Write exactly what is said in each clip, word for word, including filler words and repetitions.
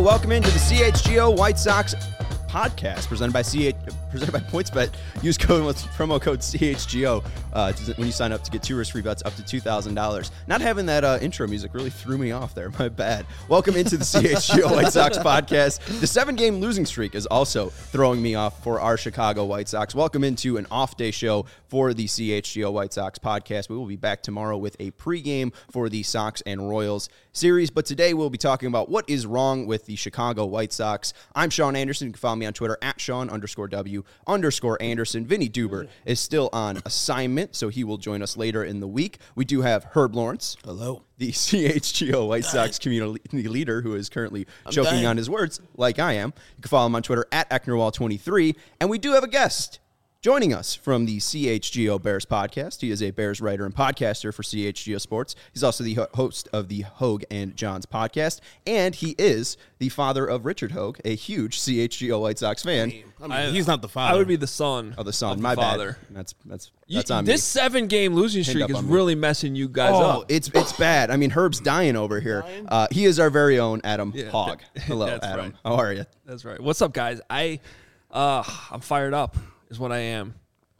Welcome into the C H G O White Sox podcast presented by C H, presented by PointsBet. Use code with promo code C H G O uh, when you sign up to get two risk-free bets up to two thousand dollars. Not having that uh, intro music really threw me off there. My bad. Welcome into the C H G O White Sox podcast. The seven-game losing streak is also throwing me off for our Chicago White Sox. Welcome into an off-day show for the C H G O White Sox podcast. We will be back tomorrow with a pregame for the Sox and Royals series, but today we'll be talking about what is wrong with the Chicago White Sox. I'm Sean Anderson. You can follow me on Twitter at Sean underscore W underscore Anderson. Vinny Duber is still on assignment, so he will join us later in the week. We do have Herb Lawrence. Hello. The C H G O White Sox community leader who is currently I'm choking dying. on his words like I am. You can follow him on Twitter at Ecknerwall twenty-three. And we do have a guest joining us from the C H G O Bears podcast. He is a Bears writer and podcaster for C H G O Sports. He's also the ho- host of the Hogue and Johns podcast, and he is the father of Richard Hogue, a huge C H G O White Sox fan. I mean, I mean, I, he's not the father. I would be the son. Oh, the son. Of My the father. bad. That's that's that's you, on this me. seven-game losing streak is really messing you guys oh, up. it's it's bad. I mean, Herb's dying over here. Uh, he is our very own Adam yeah, Hogg. Hello, that's Adam. Right. How are you? That's right. What's up, guys? I, uh, I'm fired up. Is what I am.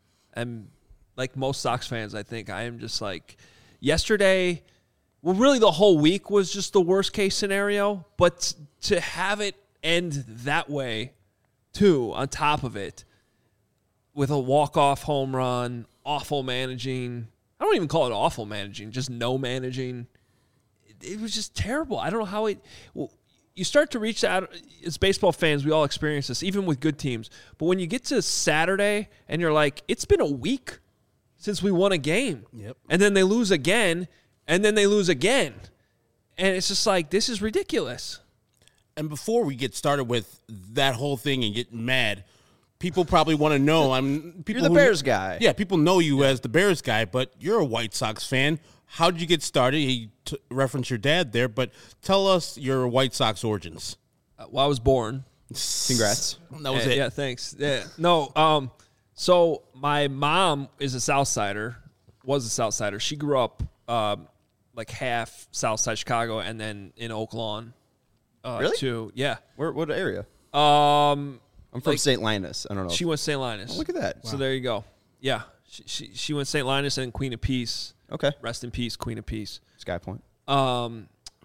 And like most Sox fans, I think I am just like yesterday. Well, really, the whole week was just the worst case scenario. But to have it end that way, too, on top of it, with a walk-off home run, awful managing. I don't even call it awful managing, just no managing. It, it was just terrible. I don't know how it. Well, you start to reach out, as baseball fans, we all experience this, even with good teams. But when you get to Saturday and you're like, it's been a week since we won a game. Yep. And then they lose again, and then they lose again. And it's just like, this is ridiculous. And before we get started with that whole thing and get mad, people probably want to know. I'm people You're the who, Bears guy. Yeah, people know you yeah. as the Bears guy, but you're a White Sox fan. How did you get started? He t- referenced your dad there, but tell us your White Sox origins. Uh, well, I was born. Congrats. That was uh, it. Yeah, thanks. Yeah. No, um, so my mom is a Southsider, was a Southsider. She grew up um, like half Southside Chicago and then in Oak Lawn. Uh, really? Too. Yeah. Where? What area? Um, I'm from like, Saint Linus. I don't know. She went Saint Linus. Oh, look at that. So wow. There you go. Yeah. She, she, she went Saint Linus and Queen of Peace. Okay. Rest in peace, Queen of Peace. Sky Point. Um,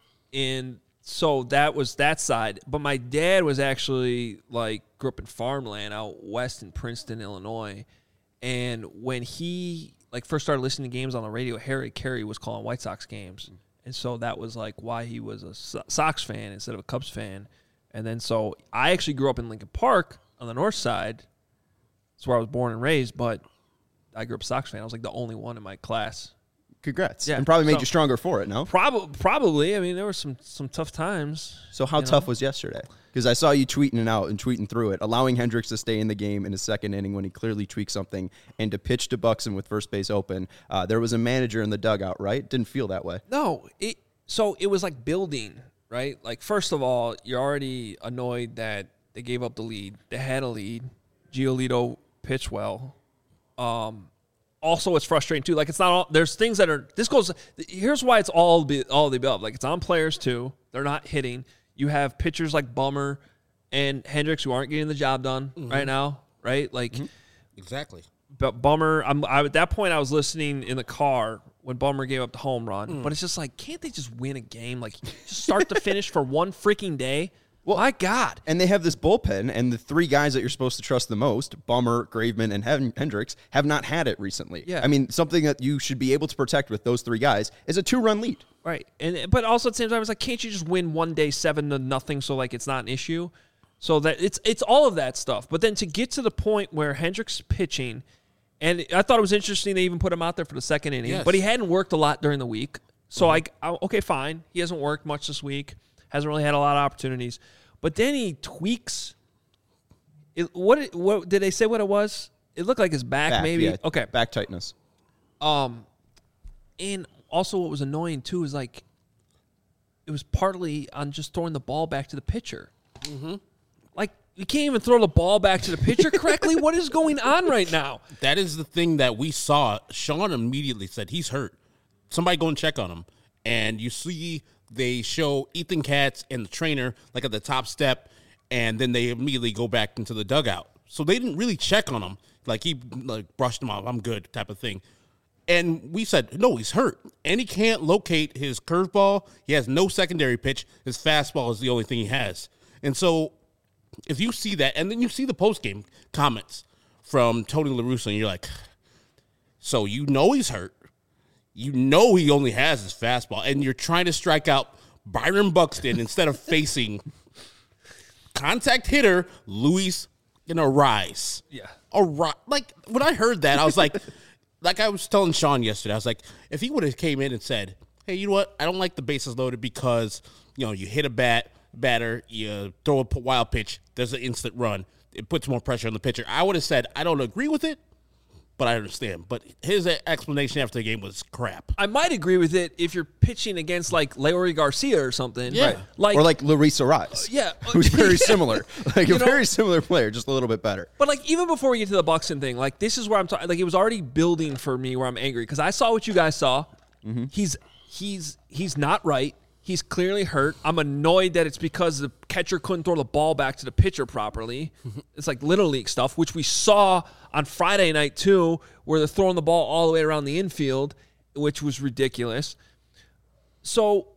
and so that was that side. But my dad was actually like grew up in farmland out west in Princeton, Illinois. And when he like first started listening to games on the radio, Harry Carey was calling White Sox games. And so that was like why he was a so- Sox fan instead of a Cubs fan. And then so I actually grew up in Lincoln Park on the north side. That's where I was born and raised, but I grew up a Sox fan. I was like the only one in my class. Congrats. Yeah, and probably made so, you stronger for it, no? Probably, probably. I mean, there were some some tough times. So how tough know? was yesterday? Because I saw you tweeting it out and tweeting through it, allowing Hendricks to stay in the game in his second inning when he clearly tweaked something, and to pitch to Buxton with first base open. Uh, there was a manager in the dugout, right? Didn't feel that way. No. It, so it was like building, right? Like, first of all, you're already annoyed that they gave up the lead. They had a lead. Giolito pitched well. Um Also, it's frustrating, too. Like, it's not all – there's things that are – this goes – here's why it's all be, all the above. Like, it's on players, too. They're not hitting. You have pitchers like Bummer and Hendricks who aren't getting the job done mm-hmm. right now, right? Like mm-hmm. – Exactly. But Bummer – I'm I, at that point, I was listening in the car when Bummer gave up the home run. Mm. But it's just like, can't they just win a game? Like, just start to finish for one freaking day? Well, my God. And they have this bullpen, and the three guys that you're supposed to trust the most, Bummer, Graveman, and Hendricks, have not had it recently. Yeah. I mean, something that you should be able to protect with those three guys is a two-run lead. Right. and But also at the same time, it's like, can't you just win one day seven to nothing so, like, it's not an issue? So that it's it's all of that stuff. But then to get to the point where Hendricks pitching, and I thought it was interesting they even put him out there for the second inning, yes. but he hadn't worked a lot during the week. So, mm-hmm. I, I okay, fine. He hasn't worked much this week, hasn't really had a lot of opportunities. But then he tweaks. It, what what did they say? What it was? It looked like his back, back maybe. Yeah, okay, back tightness. Um, and also what was annoying too is like it was partly on just throwing the ball back to the pitcher. Mm-hmm. Like you can't even throw the ball back to the pitcher correctly. What is going on right now? That is the thing that we saw. Sean immediately said he's hurt. Somebody go and check on him. And you see they show Ethan Katz and the trainer like at the top step, and then they immediately go back into the dugout. So they didn't really check on him. Like he like brushed him off, I'm good type of thing. And we said, no, he's hurt. And he can't locate his curveball. He has no secondary pitch. His fastball is the only thing he has. And so if you see that, and then you see the postgame comments from Tony La Russa, and you're like, so you know he's hurt. You know he only has his fastball. And you're trying to strike out Byron Buxton instead of facing contact hitter Luis Arraez. Yeah. Arraez. Like, when I heard that, I was like... Like I was telling Sean yesterday, I was like, if he would have came in and said, hey, you know what? I don't like the bases loaded because, you know, you hit a bat, batter, you throw a wild pitch, there's an instant run. It puts more pressure on the pitcher. I would have said, I don't agree with it, but I understand. But his explanation after the game was crap. I might agree with it if you're pitching against, like, Leury Garcia or something. Yeah. Right. Like, or like Luis Arraez. Uh, yeah. Who's very similar. Like You a know, very similar player, just a little bit better. But, like, even before we get to the Buxton thing, like, this is where I'm talking. Like, it was already building for me where I'm angry because I saw what you guys saw. Mm-hmm. He's he's he's not right. He's clearly hurt. I'm annoyed that it's because the catcher couldn't throw the ball back to the pitcher properly. It's like Little League stuff, which we saw on Friday night too, where they're throwing the ball all the way around the infield, which was ridiculous. So,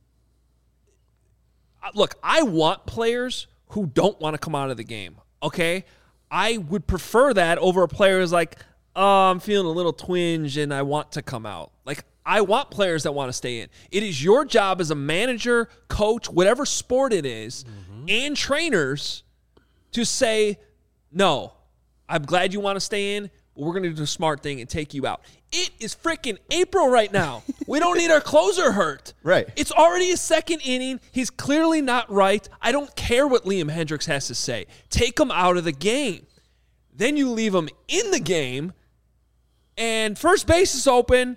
look, I want players who don't want to come out of the game, okay? I would prefer that over a player who's like, oh, I'm feeling a little twinge and I want to come out. Like, I want players that want to stay in. It is your job as a manager, coach, whatever sport it is, mm-hmm. and trainers to say, no, I'm glad you want to stay in, but we're going to do the smart thing and take you out. It is freaking April right now. We don't need our closer hurt. Right. It's already a second inning. He's clearly not right. I don't care what Liam Hendricks has to say. Take him out of the game. Then you leave him in the game, and first base is open.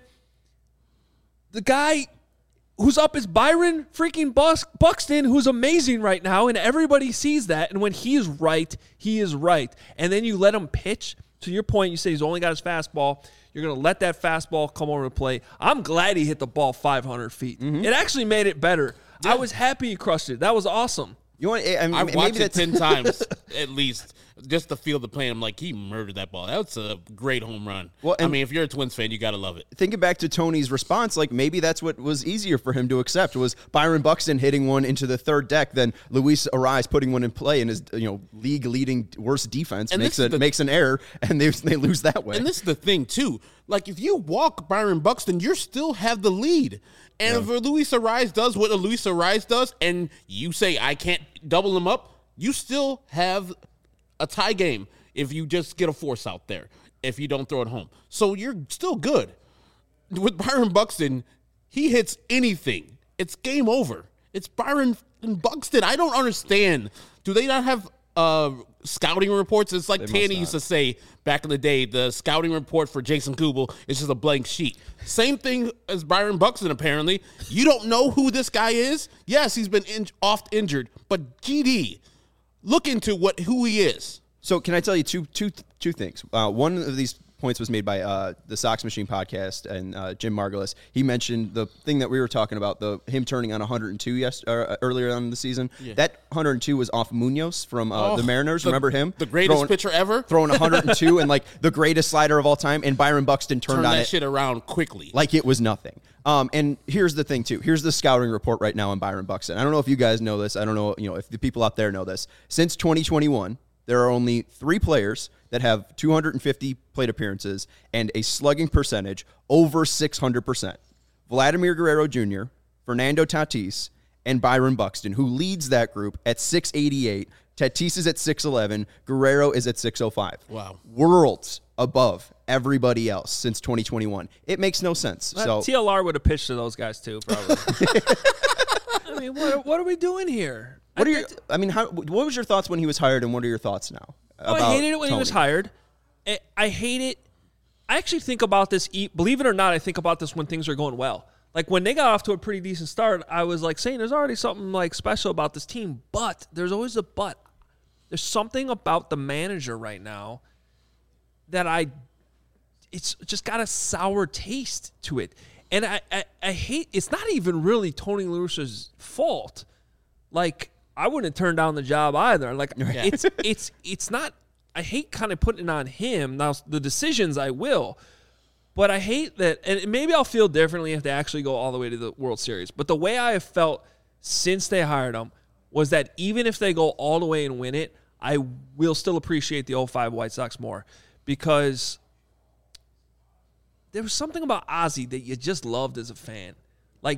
The guy who's up is Byron freaking Bus- Buxton, who's amazing right now, and everybody sees that. And when he is right, he is right. And then you let him pitch. To your point, you say he's only got his fastball. You're going to let that fastball come over to play. I'm glad he hit the ball five hundred feet. Mm-hmm. It actually made it better. Yeah. I was happy he crushed it. That was awesome. You want? I mean, I've maybe watched it that's ten times at least just to feel the play. I'm like, he murdered that ball. That's a great home run. Well, I mean, if you're a Twins fan, you got to love it. Thinking back to Tony's response, like maybe that's what was easier for him to accept was Byron Buxton hitting one into the third deck than Luis Arraez putting one in play in his you know league leading worst defense and makes it the, makes an error and they they lose that way. And this is the thing too. Like if you walk Byron Buxton, you still have the lead. And yeah. if Luis Arraez does what a Luis Arraez does, and you say I can't double him up, you still have a tie game if you just get a force out there, if you don't throw it home. So you're still good. With Byron Buxton, he hits anything. It's game over. It's Byron Buxton. I don't understand. Do they not have uh, scouting reports? It's like they Tanny used to say back in the day, the scouting report for Jason Kubel is just a blank sheet. Same thing as Byron Buxton, apparently. You don't know who this guy is? Yes, he's been in, oft injured, but G D, look into what who he is. So can I tell you two, two, two things? Uh, one of these points was made by uh, the Sox Machine podcast and uh, Jim Margulis. He mentioned the thing that we were talking about, the him turning on one hundred two yes, uh, earlier on in the season. Yeah. That one hundred two was off Munoz from uh, oh, the Mariners. The, Remember him? The greatest throwing, pitcher ever? Throwing one hundred two and like the greatest slider of all time, and Byron Buxton turned Turn on that it shit around quickly. Like it was nothing. Um, and here's the thing, too. Here's the scouting report right now on Byron Buxton. I don't know if you guys know this. I don't know, you know, if the people out there know this. Since twenty twenty-one, there are only three players that have two hundred fifty plate appearances and a slugging percentage over six hundred percent. Vladimir Guerrero Junior, Fernando Tatis, and Byron Buxton, who leads that group at six eighty-eight. Tatis is at six eleven. Guerrero is at six oh five. Wow. Worlds above everybody else since twenty twenty-one. It makes no sense. Well, so T L R would have pitched to those guys too, probably. I mean, what, what are we doing here? What are your? I mean, how? What was your thoughts when he was hired, and what are your thoughts now? Oh, I hated it when Tony. He was hired. I, I hate it. I actually think about this. Believe it or not, I think about this when things are going well. Like when they got off to a pretty decent start, I was like saying, "There's already something like special about this team." But there's always a but. There's something about the manager right now that I. It's just got a sour taste to it. And I, I, I hate, it's not even really Tony La Russa's fault. Like, I wouldn't have turned down the job either. Like, Yeah. it's, it's, it's not, I hate kind of putting it on him. Now, the decisions I will, but I hate that, and maybe I'll feel differently if they actually go all the way to the World Series. But the way I have felt since they hired him was that even if they go all the way and win it, I will still appreciate the oh five White Sox more, because there was something about Ozzie that you just loved as a fan. Like,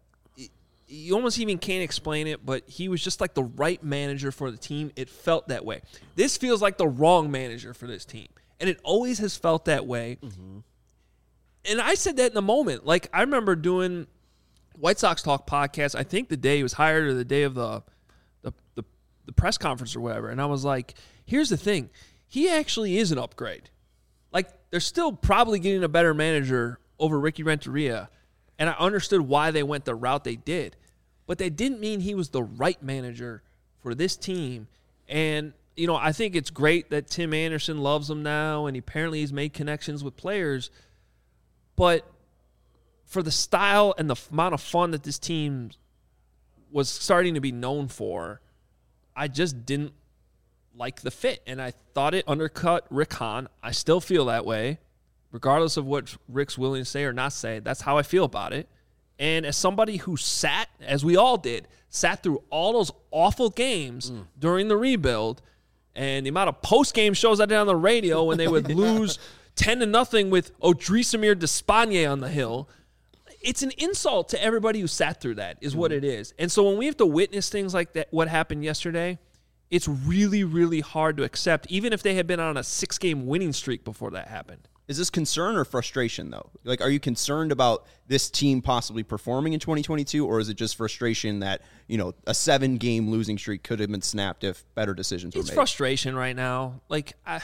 you almost even can't explain it, but he was just like the right manager for the team. It felt that way. This feels like the wrong manager for this team, and it always has felt that way. Mm-hmm. And I said that in the moment. Like, I remember doing White Sox Talk podcast, I think the day he was hired or the day of the the, the, the press conference or whatever, and I was like, here's the thing. He actually is an upgrade. Like, they're still probably getting a better manager over Ricky Renteria, and I understood why they went the route they did. But that didn't mean he was the right manager for this team. And, you know, I think it's great that Tim Anderson loves him now, and apparently he's made connections with players. But for the style and the amount of fun that this team was starting to be known for, I just didn't like the fit, and I thought it undercut Rick Hahn. I still feel that way, regardless of what Rick's willing to say or not say. That's how I feel about it. And as somebody who sat, as we all did, sat through all those awful games mm. during the rebuild, and the amount of post-game shows I did on the radio when they would lose ten to nothing with Odrisamir Despaigne on the hill, it's an insult to everybody who sat through that, is mm. what it is. And so when we have to witness things like that, what happened yesterday, it's really, really hard to accept, even if they had been on a six-game winning streak before that happened. Is this concern or frustration, though? Like, are you concerned about this team possibly performing in twenty twenty-two, or is it just frustration that, you know, a seven-game losing streak could have been snapped if better decisions were it's made? It's frustration right now. Like, I,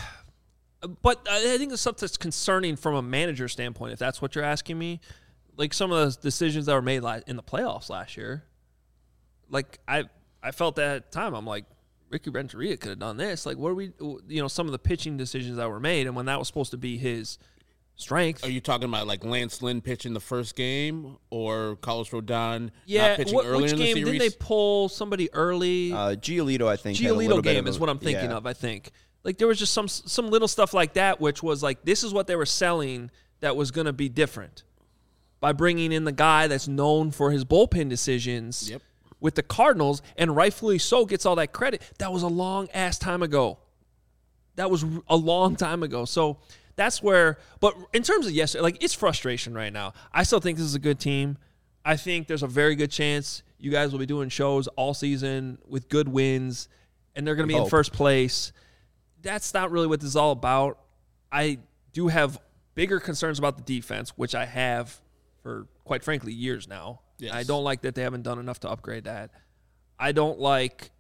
but I think it's something that's concerning from a manager standpoint, if that's what you're asking me. Like, some of those decisions that were made in the playoffs last year, like, I, I felt that at the time. I'm like, Ricky Renteria could have done this. Like, what are we, you know, some of the pitching decisions that were made, and when that was supposed to be his strength. Are you talking about, like, Lance Lynn pitching the first game, or Carlos Rodon yeah, not pitching what, earlier which in the game, series? Didn't they pull somebody early? Uh, Giolito, I think. Giolito game of is a, what I'm thinking yeah. of, I think. Like, there was just some some little stuff like that, which was like, this is what they were selling that was going to be different by bringing in the guy that's known for his bullpen decisions. Yep. With the Cardinals, and rightfully so, gets all that credit. That was a long-ass time ago. That was a long time ago. So that's where – but in terms of yesterday, like, it's frustration right now. I still think this is a good team. I think there's a very good chance you guys will be doing shows all season with good wins, and they're going to be Hope. in first place. That's not really what this is all about. I do have bigger concerns about the defense, which I have for, quite frankly, years now. Yes. I don't like that they haven't done enough to upgrade that. I don't like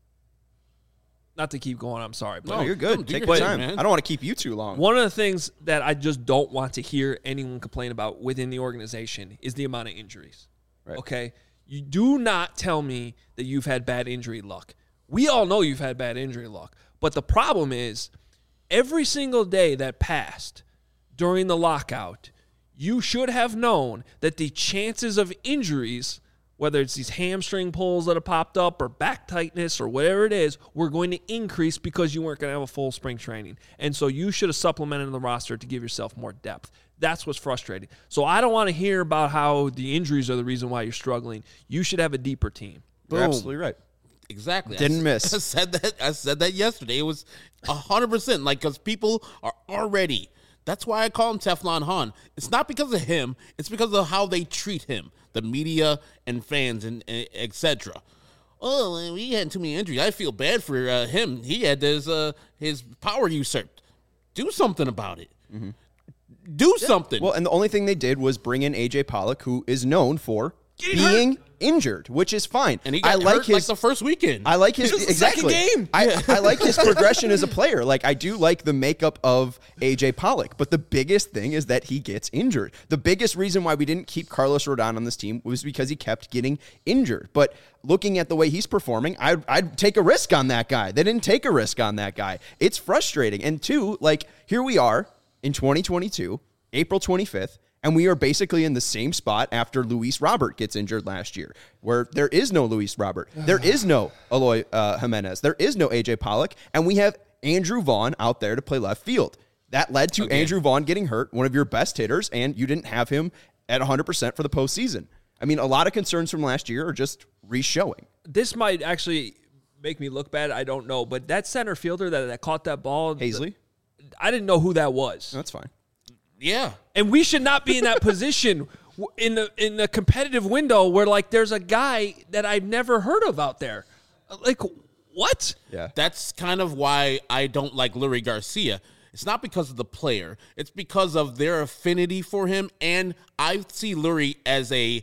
– not to keep going, I'm sorry. But No, you're good. No, Take your your thing, time. man. I don't want to keep you too long. one of the things that I just don't want to hear anyone complain about within the organization is the amount of injuries. Right. Okay? You do not tell me that you've had bad injury luck. We all know you've had bad injury luck. But the problem is every single day that passed during the lockout – you should have known that the chances of injuries, whether it's these hamstring pulls that have popped up or back tightness or whatever it is, were going to increase because you weren't going to have a full spring training. And so you should have supplemented the roster to give yourself more depth. That's what's frustrating. So I don't want to hear about how the injuries are the reason why you're struggling. You should have a deeper team. You're Boom. absolutely right. Exactly. Didn't I, miss. I said that. I said that yesterday. It was a hundred percent like because people are already. That's why I call him Teflon Han. It's not because of him. It's because of how they treat him, the media and fans and, and et cetera. Oh, he had too many injuries. I feel bad for uh, him. He had his uh, his power usurped. Do something about it. Mm-hmm. Do yeah. something. Well, and the only thing they did was bring in A J Pollock, who is known for Getting being hurt. injured, which is fine. And he got I like hurt his, like the first weekend. I like his This is the exactly. second game. I, I like his progression as a player. Like I do like the makeup of A J Pollock, but the biggest thing is that he gets injured. The biggest reason why we didn't keep Carlos Rodon on this team was because he kept getting injured. But looking at the way he's performing, I'd, I'd take a risk on that guy. They didn't take a risk on that guy. It's frustrating. And two, like here we are in twenty twenty-two, April twenty-fifth, And we are basically in the same spot after Luis Robert gets injured last year, where there is no Luis Robert. There is no Eloy uh, Jimenez. There is no A J Pollock. And we have Andrew Vaughn out there to play left field. That led to Again. Andrew Vaughn getting hurt, one of your best hitters, and you didn't have him at one hundred percent for the postseason. I mean, a lot of concerns from last year are just re-showing. This might actually make me look bad. I don't know. But that center fielder that, that caught that ball. Hazley? The, I didn't know who that was. That's fine. Yeah. And we should not be in that position in the in the competitive window where, like, there's a guy that I've never heard of out there. Like, what? Yeah. That's kind of why I don't like Lurie Garcia. It's not because of the player. It's because of their affinity for him. And I see Lurie as a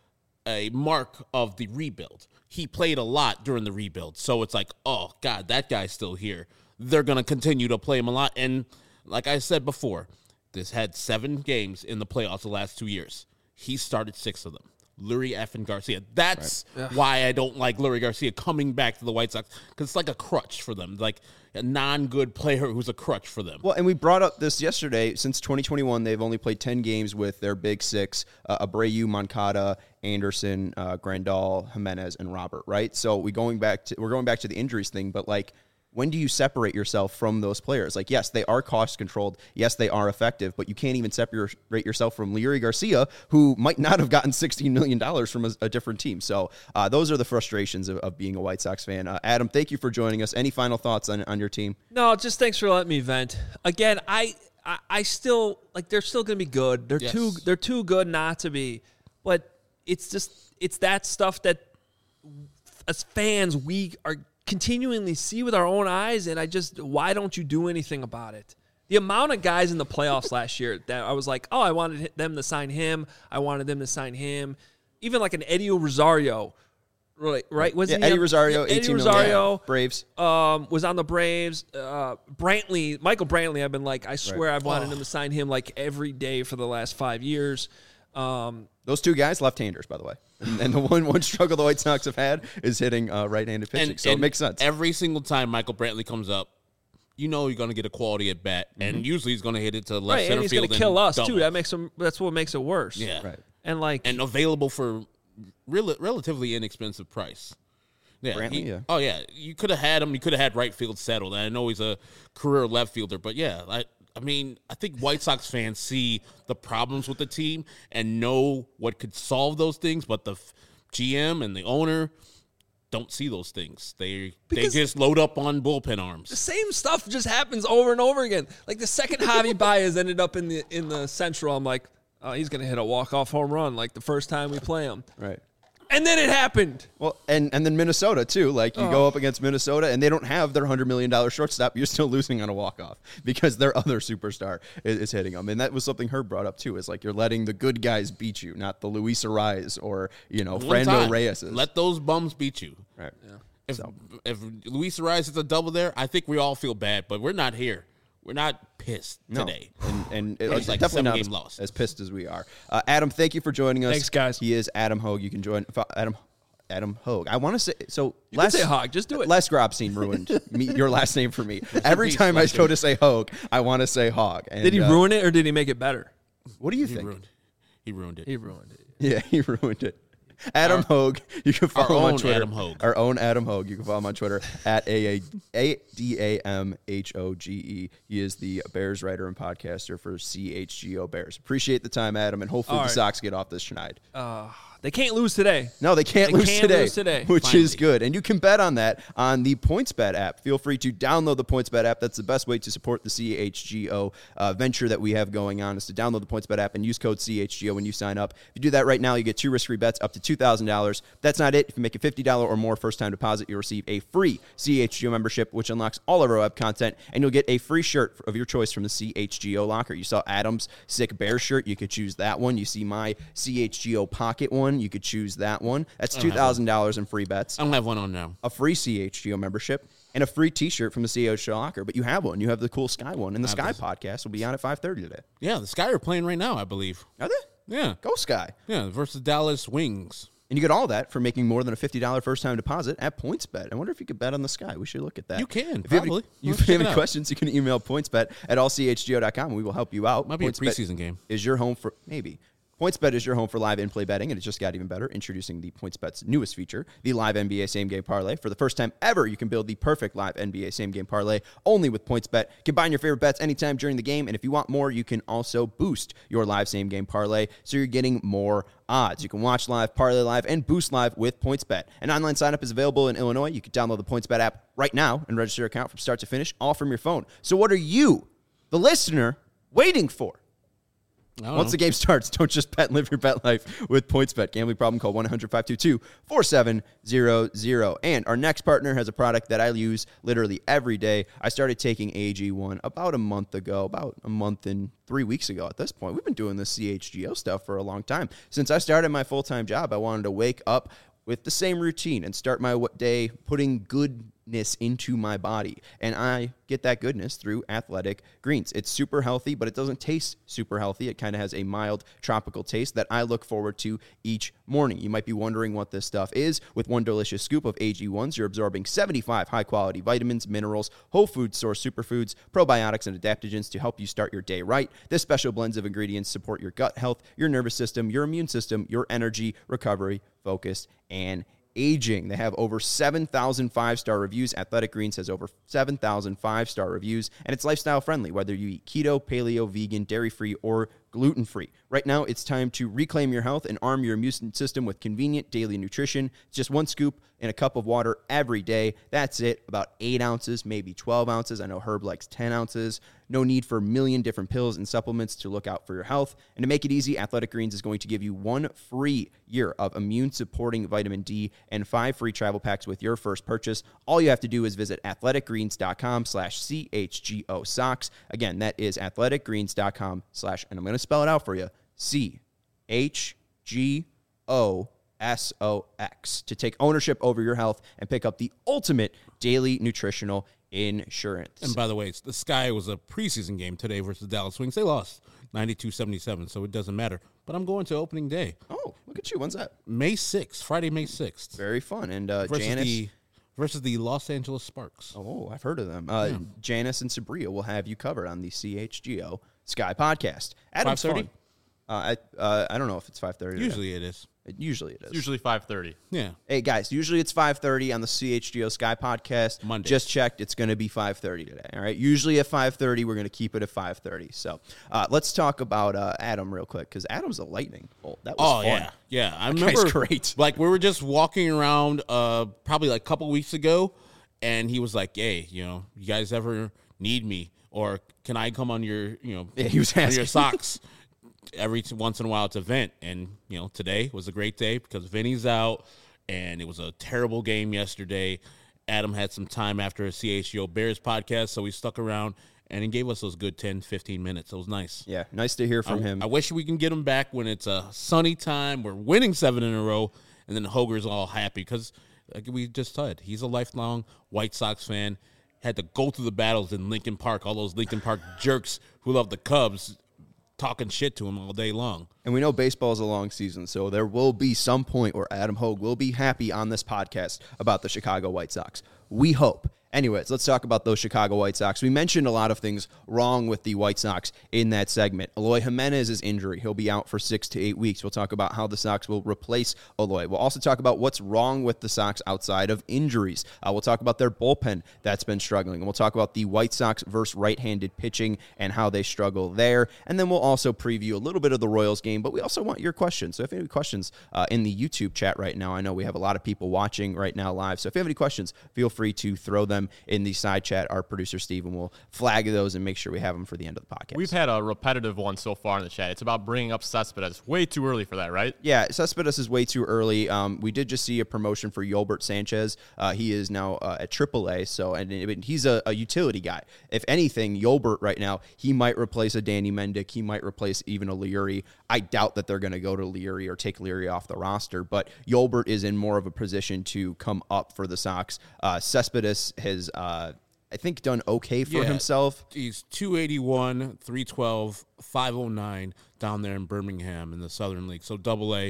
a mark of the rebuild. He played a lot during the rebuild. So it's like, oh, God, that guy's still here. They're going to continue to play him a lot. And like I said before, this had seven games in the playoffs the last two years. He started six of them. Lurie effing Garcia. That's right. why I don't like Lurie Garcia coming back to the White Sox, because it's like a crutch for them, like a non-good player who's a crutch for them. Well, and we brought up this yesterday. Since twenty twenty-one, they've only played ten games with their big six, uh, Abreu, Moncada, Anderson, uh, Grandal, Jimenez, and Robert, right? So we going back to, we're going back to the injuries thing, but like, when do you separate yourself from those players? Like, yes, they are cost controlled. Yes, they are effective, but you can't even separate yourself from Lurie Garcia, who might not have gotten sixteen million dollars from a, a different team. So uh, those are the frustrations of, of being a White Sox fan. Uh, Adam, thank you for joining us. Any final thoughts on, on your team? No, just thanks for letting me vent. Again, I I, I still, like, they're still going to be good. They're Yes. too they're too good not to be. But it's just, it's that stuff that as fans, we are continually see with our own eyes, and I just, why don't you do anything about it? The amount of guys in the playoffs last year that I was like, oh, I wanted them to sign him. I wanted them to sign him. Even like an Eddie Rosario, right? Right? Was Yeah, he Eddie on- Rosario, Eddie eighteen million. Rosario, Braves. um, was on the Braves. Uh, Brantley, Michael Brantley, I've been like, I swear Right. I've wanted him to sign him like every day for the last five years. Um, Those two guys, left-handers, by the way. And, and the one one struggle the White Sox have had is hitting uh, right-handed pitching. And, so and it makes sense. Every single time Michael Brantley comes up, you know you're going to get a quality at bat, Mm-hmm. and usually he's going to hit it to left right, center and he's field going to kill us double. too. That makes him. That's what makes it worse. Yeah, Right. And like, and available for rel- relatively inexpensive price. Yeah, Brantley, he- yeah. Oh yeah, you could have had him. You could have had right field settled. And I know he's a career left fielder, but yeah, I, I mean, I think White Sox fans see the problems with the team and know what could solve those things, but the f- G M and the owner don't see those things. They Because- they just load up on bullpen the arms. same stuff just happens over and over again. Like the second Javi Baez ended up in the in the Central, I'm like, oh, he's going to hit a walk-off home run like the first time we play him. Right. And then it happened. Well, and, and then Minnesota, too. Like, you Oh. go up against Minnesota, and they don't have their one hundred million dollars shortstop. You're still losing on a walk-off because their other superstar is, is hitting them. And that was something Herb brought up, too, is like you're letting the good guys beat you, not the Luis Ariz or, you know, One Frando time, Reyes. Let those bums beat you. Right. If So. if Luis Ariz is a double there, I think we all feel bad, but we're not here. We're not pissed No. today. And, and it- It's like definitely not as, seven-game loss. as pissed as we are. Uh, Adam, thank you for joining us. Thanks, guys. He is Adam Hogue. You can join fo- Adam Adam Hogue. I want to say so. You Les, can say Hogg, just do it. Les Grobstein ruined me, your last name for me. Every He's time I like go him. to say Hogue, I want to say Hogg. And, Did he uh, ruin it or did he make it better? What do you He think? ruined. He ruined it. He ruined it. Yeah, he ruined it. Adam Our- Hogue. You can follow our him on own Twitter. Adam Hogue. Our own Adam Hogue. You can follow him on Twitter at A D A M H O G E. He is the Bears writer and podcaster for C H G O Bears. Appreciate the time, Adam, and hopefully All the right. Sox get off this tonight. Uh, they can't lose today. No, they can't, They lose, can't today, lose today. which Finally. is good. And you can bet on that on the PointsBet app. Feel free to download the PointsBet app. That's the best way to support the C H G O uh, venture that we have going on, is to download the PointsBet app and use code C H G O when you sign up. If you do that right now, you get two risk-free bets up to two thousand dollars. That's not it. If you make a fifty dollars or more first-time deposit, you'll receive a free C H G O membership, which unlocks all of our web content, and you'll get a free shirt of your choice from the C H G O locker. You saw Adam's sick bear shirt. You could choose that one. You see my C H G O pocket one. You could choose that one. That's two thousand dollars in free bets, I don't have one on now. a free C H G O membership, and a free T-shirt from the C H G O locker. But you have one. You have the cool Sky one, and the Sky this. podcast will be on at five thirty today. Yeah, the Sky are playing right now, I believe. Are they? Yeah. Go Sky. Yeah, versus Dallas Wings. And you get all that for making more than a fifty dollars first-time deposit at PointsBet. I wonder if you could bet on the Sky. We should look at that. You can, if you probably. Have any, Let's if you have check it any out. questions, you can email PointsBet at all c h g o dot com, and we will help you out. Might be a PointsBet preseason game. Is your home for, maybe. PointsBet is your home for live in-play betting, and it just got even better, introducing the PointsBet's newest feature, the live N B A same-game parlay. For the first time ever, you can build the perfect live N B A same-game parlay only with PointsBet. Combine your favorite bets anytime during the game, and if you want more, you can also boost your live same-game parlay, so you're getting more odds. You can watch live, parlay live, and boost live with PointsBet. An online sign-up is available in Illinois. You can download the PointsBet app right now and register your account from start to finish, all from your phone. So what are you, the listener, waiting for? Once know. the game starts, don't just bet and live your bet life with PointsBet. Gambling problem, call one eight hundred five two two four seven zero zero. And our next partner has a product that I use literally every day. I started taking A G one about a month ago, about a month and three weeks ago at this point. We've been doing this C H G O stuff for a long time. Since I started my full-time job, I wanted to wake up with the same routine and start my day putting goodness into my body. And I get that goodness through Athletic Greens. It's super healthy, but it doesn't taste super healthy. It kind of has a mild tropical taste that I look forward to each morning. You might be wondering what this stuff is. With one delicious scoop of A G ones, you're absorbing seventy-five high-quality vitamins, minerals, whole food source superfoods, probiotics, and adaptogens to help you start your day right. This special blends of ingredients support your gut health, your nervous system, your immune system, your energy, recovery, focus, and aging. They have over seven thousand five-star reviews. Athletic Greens has over seven thousand five-star reviews, and it's lifestyle friendly, whether you eat keto, paleo, vegan, dairy-free, or gluten-free. Right now, it's time to reclaim your health and arm your immune system with convenient daily nutrition. It's just one scoop in a cup of water every day. That's it. About eight ounces, maybe twelve ounces. I know Herb likes ten ounces. No need for a million different pills and supplements to look out for your health. And to make it easy, Athletic Greens is going to give you one free year of immune-supporting vitamin D and five free travel packs with your first purchase. All you have to do is visit athleticgreens.com slash CHGO socks. Again, that is athleticgreens.com slash, and I'm going to spell it out for you, C H G O S O X, to take ownership over your health and pick up the ultimate daily nutritional insurance. And by the way, it's, the Sky was a preseason game today versus Dallas Wings. They lost ninety-two seventy-seven, so it doesn't matter. But I'm going to opening day. Oh, look at you. When's that? May sixth, Friday, May sixth. Very fun. And uh, Versus Janice... the, versus the Los Angeles Sparks. Oh, I've heard of them. Uh, yeah. Janice and Sabria will have you covered on the C H G O Sky podcast. Adam's five thirty? Uh, I, uh, I don't know if it's five thirty. Usually it is. It, usually it is. It's usually five thirty. Yeah. Hey, guys, usually it's five thirty on the C H G O Sky podcast. Monday. Just checked. It's going to be five thirty today, all right? Usually at five thirty, we're going to keep it at five thirty. So uh, let's talk about uh, Adam real quick, because Adam's a lightning bolt. That was Oh, fun. yeah. Yeah. I That remember, guy's great. like, we were just walking around uh, probably like a couple weeks ago, and he was like, hey, you know, you guys ever need me? Or can I come on your, you know, Yeah, he was on asking. your socks? Every t- once in a while it's a vent, and you know today was a great day because Vinny's out, and it was a terrible game yesterday. Adam had some time after a C H G O Bears podcast, so he stuck around and he gave us those good ten, fifteen minutes. It was nice. Yeah, nice to hear from I, him. I wish we can get him back when it's a sunny time. We're winning seven in a row, and then Hoger's all happy because, like we just said, he's a lifelong White Sox fan. Had to go through the battles in Lincoln Park. All those Lincoln Park jerks who love the Cubs talking shit to him all day long. And we know baseball is a long season, so there will be some point where Adam Hogue will be happy on this podcast about the Chicago White Sox. We hope. Anyways, let's talk about those Chicago White Sox. We mentioned a lot of things wrong with the White Sox in that segment. Eloy Jimenez's injury. He'll be out for six to eight weeks. We'll talk about how the Sox will replace Eloy. We'll also talk about what's wrong with the Sox outside of injuries. Uh, we'll talk about their bullpen that's been struggling. And we'll talk about the White Sox versus right-handed pitching and how they struggle there. And then we'll also preview a little bit of the Royals game, but we also want your questions. So if you have any questions uh, in the YouTube chat right now, I know we have a lot of people watching right now live. So if you have any questions, feel free to throw them in the side chat. Our producer Steven will flag those and make sure we have them for the end of the podcast. We've had a repetitive one so far in the chat. It's about bringing up Cespedes. Way too early for that, right? Yeah, Cespedes is way too early. Um, we did just see a promotion for Yolbert Sanchez. Uh, he is now uh, at triple A, so and, and he's a, a utility guy. If anything, Yolbert right now, he might replace a Danny Mendick. He might replace even a Leary. I doubt that they're going to go to Leary or take Leary off the roster, but Yolbert is in more of a position to come up for the Sox. Uh, Cespedes has, uh, I think, done okay for Yeah. himself. He's two eighty-one, three twelve, five oh nine down there in Birmingham in the Southern League. So double A,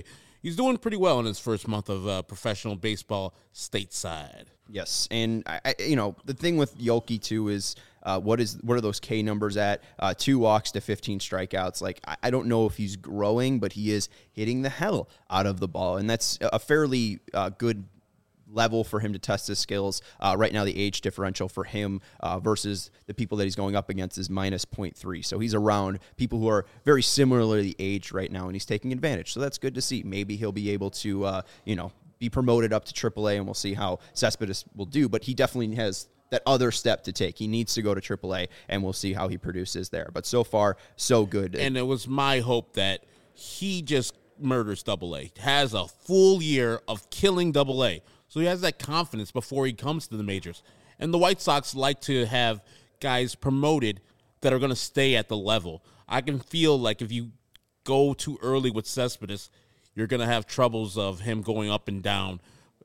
he's doing pretty well in his first month of uh, professional baseball stateside. Yes, and I, I, you know the thing with Yoki too is uh, what is what are those K numbers at? Uh, two walks to fifteen strikeouts. Like I, I don't know if he's growing, but he is hitting the hell out of the ball, and that's a fairly uh, good level for him to test his skills. Uh, right now, the age differential for him uh, versus the people that he's going up against is minus zero point three. So he's around people who are very similarly aged right now, and he's taking advantage. So that's good to see. Maybe he'll be able to, uh, you know, be promoted up to triple A, and we'll see how Cespedes will do. But he definitely has that other step to take. He needs to go to triple A, and we'll see how he produces there. But so far, so good. And it was my hope that he just murders double A, has a full year of killing double A. So he has that confidence before he comes to the majors. And the White Sox like to have guys promoted that are going to stay at the level. I can feel like if you go too early with Cespedes, you're going to have troubles of him going up and down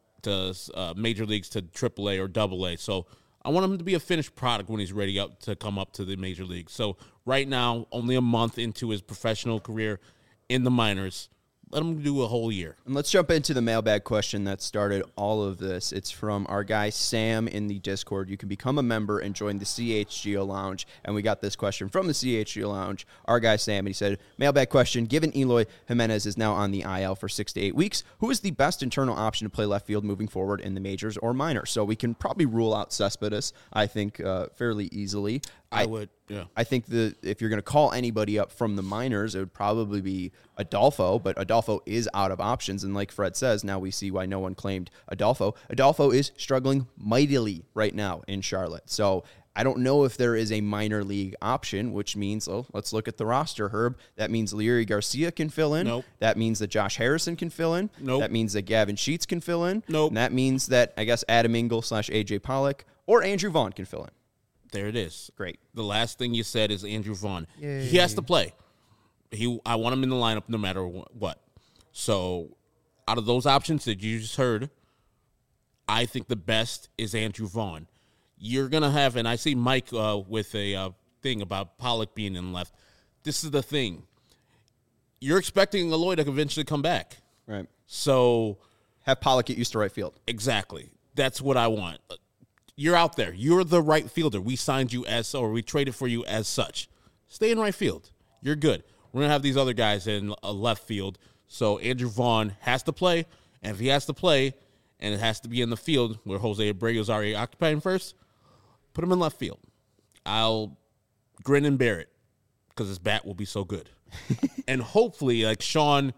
to uh, major leagues to triple A or double A. So I want him to be a finished product when he's ready up to come up to the major leagues. So right now, only a month into his professional career in the minors, let him do a whole year. And let's jump into the mailbag question that started all of this. It's from our guy Sam in the Discord. You can become a member and join the C H G O Lounge. And we got this question from the C H G O Lounge. Our guy Sam, and he said, mailbag question, given Eloy Jimenez is now on the I L for six to eight weeks, who is the best internal option to play left field moving forward in the majors or minors? So we can probably rule out Cespedes, I think, uh, fairly easily. I, I would, yeah. I think the if you're going to call anybody up from the minors, it would probably be Adolfo, but Adolfo is out of options. And like Fred says, now we see why no one claimed Adolfo. Adolfo is struggling mightily right now in Charlotte. So I don't know if there is a minor league option, which means, oh, let's look at the roster, Herb. That means Leury Garcia can fill in. Nope. That means that Josh Harrison can fill in. Nope. That means that Gavin Sheets can fill in. Nope. And that means that, I guess, Adam Engel slash A J Pollock or Andrew Vaughn can fill in. There it is. Great. The last thing you said is Andrew Vaughn. Yay. He has to play. He, I want him in the lineup no matter what. So, out of those options that you just heard, I think the best is Andrew Vaughn. You're going to have, and I see Mike uh, with a uh, thing about Pollock being in left. This is the thing. You're expecting Eloy to eventually come back. Right. So, have Pollock get used to right field. Exactly. That's what I want. You're out there. You're the right fielder. We signed you as so, or we traded for you as such. Stay in right field. You're good. We're going to have these other guys in a left field. So Andrew Vaughn has to play. And if he has to play, and it has to be in the field where Jose Abreu is already occupying first, put him in left field. I'll grin and bear it because his bat will be so good. And hopefully, like Sean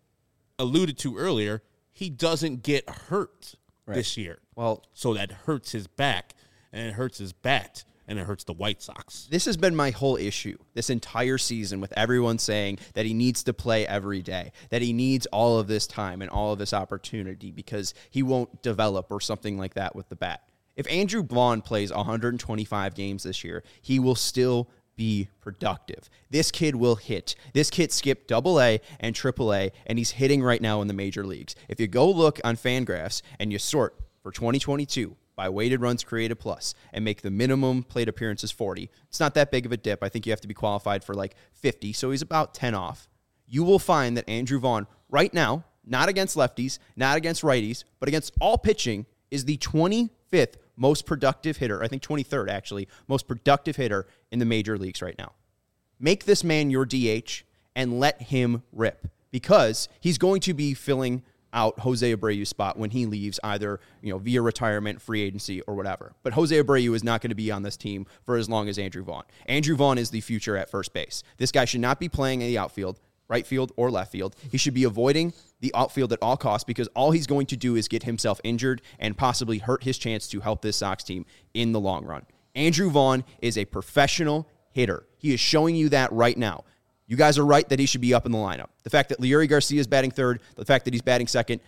alluded to earlier, he doesn't get hurt right. this year. Well, so that hurts his back, and it hurts his bat, and it hurts the White Sox. This has been my whole issue this entire season with everyone saying that he needs to play every day, that he needs all of this time and all of this opportunity because he won't develop or something like that with the bat. If Andrew Vaughn plays one hundred twenty-five games this year, he will still be productive. This kid will hit. This kid skipped double A and triple A, and he's hitting right now in the major leagues. If you go look on Fangraphs and you sort for twenty twenty-two by weighted runs created plus and make the minimum plate appearances forty, it's not that big of a dip. I think you have to be qualified for like fifty, so he's about ten off. You will find that Andrew Vaughn right now, not against lefties, not against righties, but against all pitching, is the twenty-fifth most productive hitter, I think twenty-third actually, most productive hitter in the major leagues right now. Make this man your D H and let him rip because he's going to be filling out Jose Abreu's spot when he leaves, either you know via retirement, free agency, or whatever. But Jose Abreu is not going to be on this team for as long as Andrew Vaughn. Andrew Vaughn is the future at first base. This guy should not be playing in the outfield, right field or left field. He should be avoiding the outfield at all costs because all he's going to do is get himself injured and possibly hurt his chance to help this Sox team in the long run. Andrew Vaughn is a professional hitter. He is showing you that right now. You guys are right that he should be up in the lineup. The fact that Leury Garcia is batting third, the fact that he's batting second,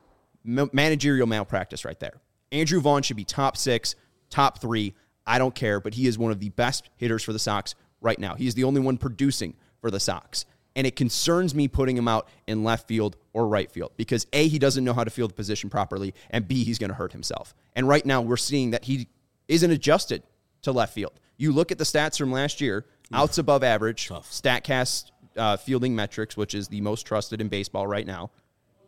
ma- managerial malpractice right there. Andrew Vaughn should be top six, top three. I don't care, but he is one of the best hitters for the Sox right now. He is the only one producing for the Sox. And it concerns me putting him out in left field or right field because A, he doesn't know how to field the position properly, and B, he's going to hurt himself. And right now we're seeing that he isn't adjusted to left field. You look at the stats from last year, outs above average, Tough. StatCast uh, fielding metrics, which is the most trusted in baseball right now.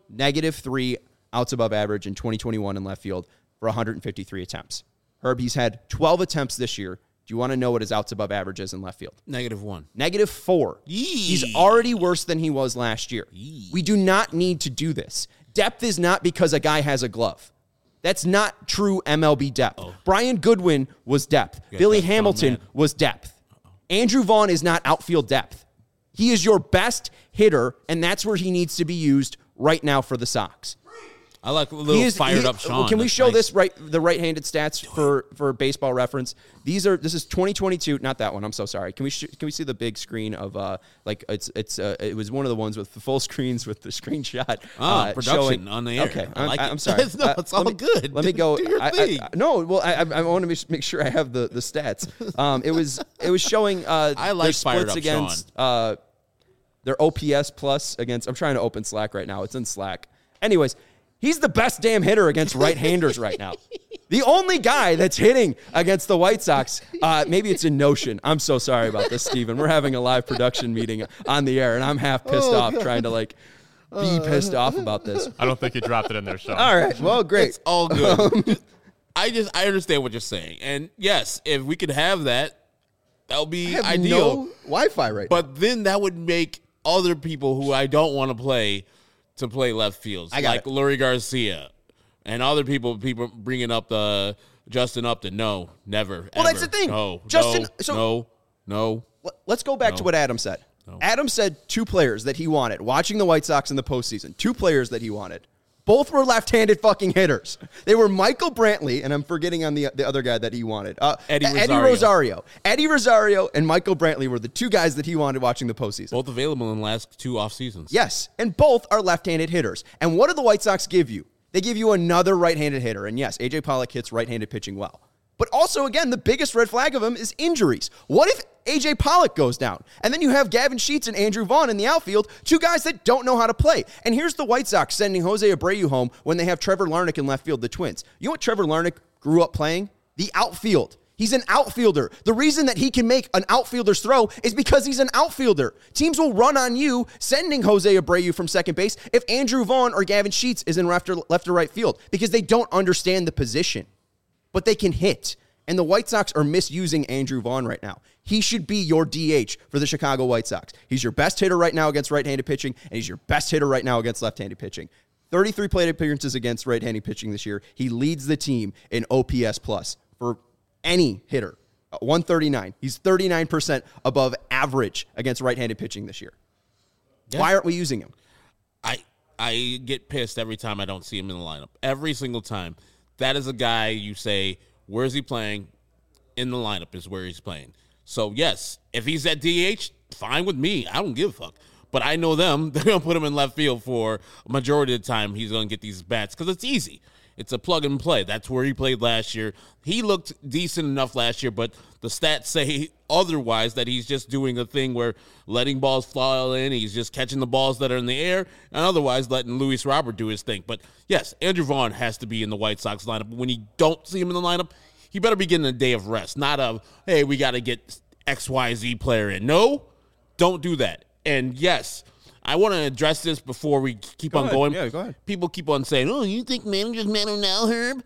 negative three outs above average in twenty twenty-one in left field for one hundred fifty-three attempts. Herb, he's had twelve attempts this year. Do you want to know what his outs above average is in left field? Negative one. Negative four. Yee. He's already worse than he was last year. Yee. We do not need to do this. Depth is not because a guy has a glove. That's not true M L B depth. Oh. Brian Goodwin was depth. Yeah, Billy Hamilton man. was depth. Uh-oh. Andrew Vaughn is not outfield depth. He is your best hitter, and that's where he needs to be used right now for the Sox. I like a little is, fired he, up Sean. Can we That's show nice. this right the right-handed stats for, for Baseball Reference? These are this is twenty twenty-two, not that one. I'm so sorry. Can we sh- can we see the big screen of uh like it's it's uh, it was one of the ones with the full screens with the screenshot. Oh, uh, production showing, on the air. Okay, I like I, it. I'm sorry. no, it's all uh, let me, good. Let me go. Do your I, thing. I, I, no, well, I, I want to make sure I have the the stats. Um, it was it was showing uh I like their fired splits up against Sean. uh their O P S plus against. I'm trying to open Slack right now. It's in Slack. Anyways. He's the best damn hitter against right-handers right now. The only guy that's hitting against the White Sox, uh, maybe it's in Notion. I'm so sorry about this, Steven. We're having a live production meeting on the air, and I'm half pissed oh, off God. trying to, like, be pissed off about this. I don't think you dropped it in there, Sean. All right. Well, great. It's all good. I just I understand what you're saying, and yes, if we could have that, that would be I have ideal. no Wi-Fi right But then that would make other people who I don't want to play to play left fields, I got like it. Lurie Garcia, and other people. People bringing up the Justin Upton. No, never. Well, ever. that's the thing. No, Justin- No, so- no, no. now. Let's go back No. to what Adam said. No. Adam said two players that he wanted, watching the White Sox in the postseason. Two players that he wanted. Both were left-handed fucking hitters. They were Michael Brantley, and I'm forgetting on the the other guy that he wanted. Uh, Eddie Eddie Rosario. Rosario. Eddie Rosario and Michael Brantley were the two guys that he wanted watching the postseason. Both available in the last two off seasons. Yes, and both are left-handed hitters. And what do the White Sox give you? They give you another right-handed hitter. And yes, A J Pollock hits right-handed pitching well. But also, again, the biggest red flag of him is injuries. What if A J Pollock goes down? And then you have Gavin Sheets and Andrew Vaughn in the outfield, two guys that don't know how to play. And here's the White Sox sending Jose Abreu home when they have Trevor Larnach in left field, the Twins. You know what Trevor Larnach grew up playing? The outfield. He's an outfielder. The reason that he can make an outfielder's throw is because he's an outfielder. Teams will run on you, sending Jose Abreu from second base if Andrew Vaughn or Gavin Sheets is in left or, left or right field because they don't understand the position. But they can hit. And the White Sox are misusing Andrew Vaughn right now. He should be your D H for the Chicago White Sox. He's your best hitter right now against right-handed pitching, and he's your best hitter right now against left-handed pitching. thirty-three plate appearances against right-handed pitching this year. He leads the team in O P S plus for any hitter. Uh, one thirty-nine. He's thirty-nine percent above average against right-handed pitching this year. Yeah. Why aren't we using him? I I get pissed every time I don't see him in the lineup. Every single time. That is a guy you say, where is he playing? In the lineup is where he's playing. So, yes, if he's at D H, fine with me. I don't give a fuck. But I know them. They're going to put him in left field for a majority of the time he's going to get these bats because it's easy. It's a plug and play. That's where he played last year. He looked decent enough last year, but the stats say otherwise, that he's just doing a thing where letting balls fly in. He's just catching the balls that are in the air and otherwise letting Luis Robert do his thing. But, yes, Andrew Vaughn has to be in the White Sox lineup. When you don't see him in the lineup, he better be getting a day of rest, not a, hey, we got to get X Y Z player in. No, don't do that. And, yes, I want to address this before we keep Go on ahead. going. Yeah, go ahead. People keep on saying, oh, you think managers matter now, Herb?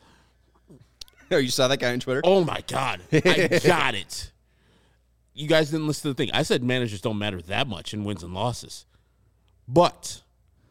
Oh, you saw that guy on Twitter? Oh, my God. I got it. You guys didn't listen to the thing. I said managers don't matter that much in wins and losses. But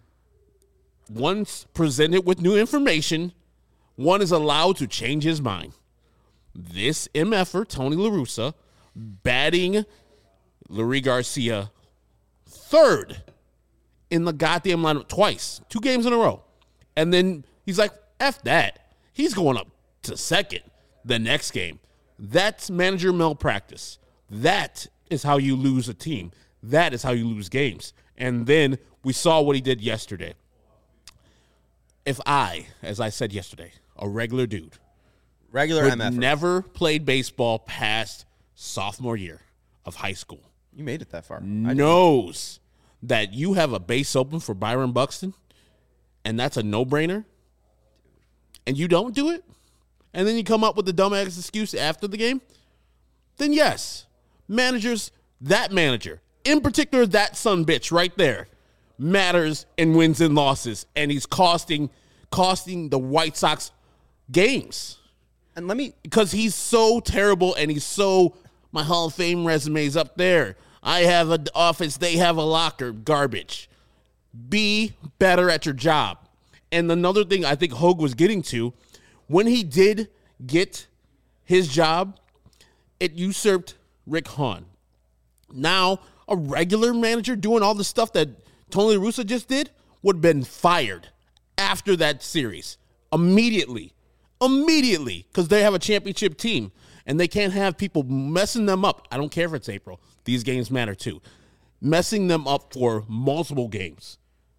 once presented with new information, one is allowed to change his mind. This M F-er, Tony La Russa, batting Lurie Garcia third in the goddamn lineup twice, two games in a row. And then he's like, F that. He's going up to second the next game. That's manager malpractice. That is how you lose a team. That is how you lose games. And then we saw what he did yesterday. If I, as I said yesterday, a regular dude, Regular who M F. never played baseball past sophomore year of high school, You made it that far. knows that you have a base open for Byron Buxton, and that's a no-brainer, and you don't do it, and then you come up with the dumbass excuse after the game, then yes, managers, that manager, in particular that son bitch right there, matters in wins and losses, and he's costing costing the White Sox games. And let me because he's so terrible, and he's so my Hall of Fame resume is up there. I have an office, they have a locker. Garbage. Be better at your job. And another thing I think Hogue was getting to, when he did get his job, it usurped Rick Hahn. Now, a regular manager doing all the stuff that Tony La Russa just did would have been fired after that series. Immediately. Immediately. Because they have a championship team. And they can't have people messing them up. I don't care if it's April. These games matter too. Messing them up for multiple games.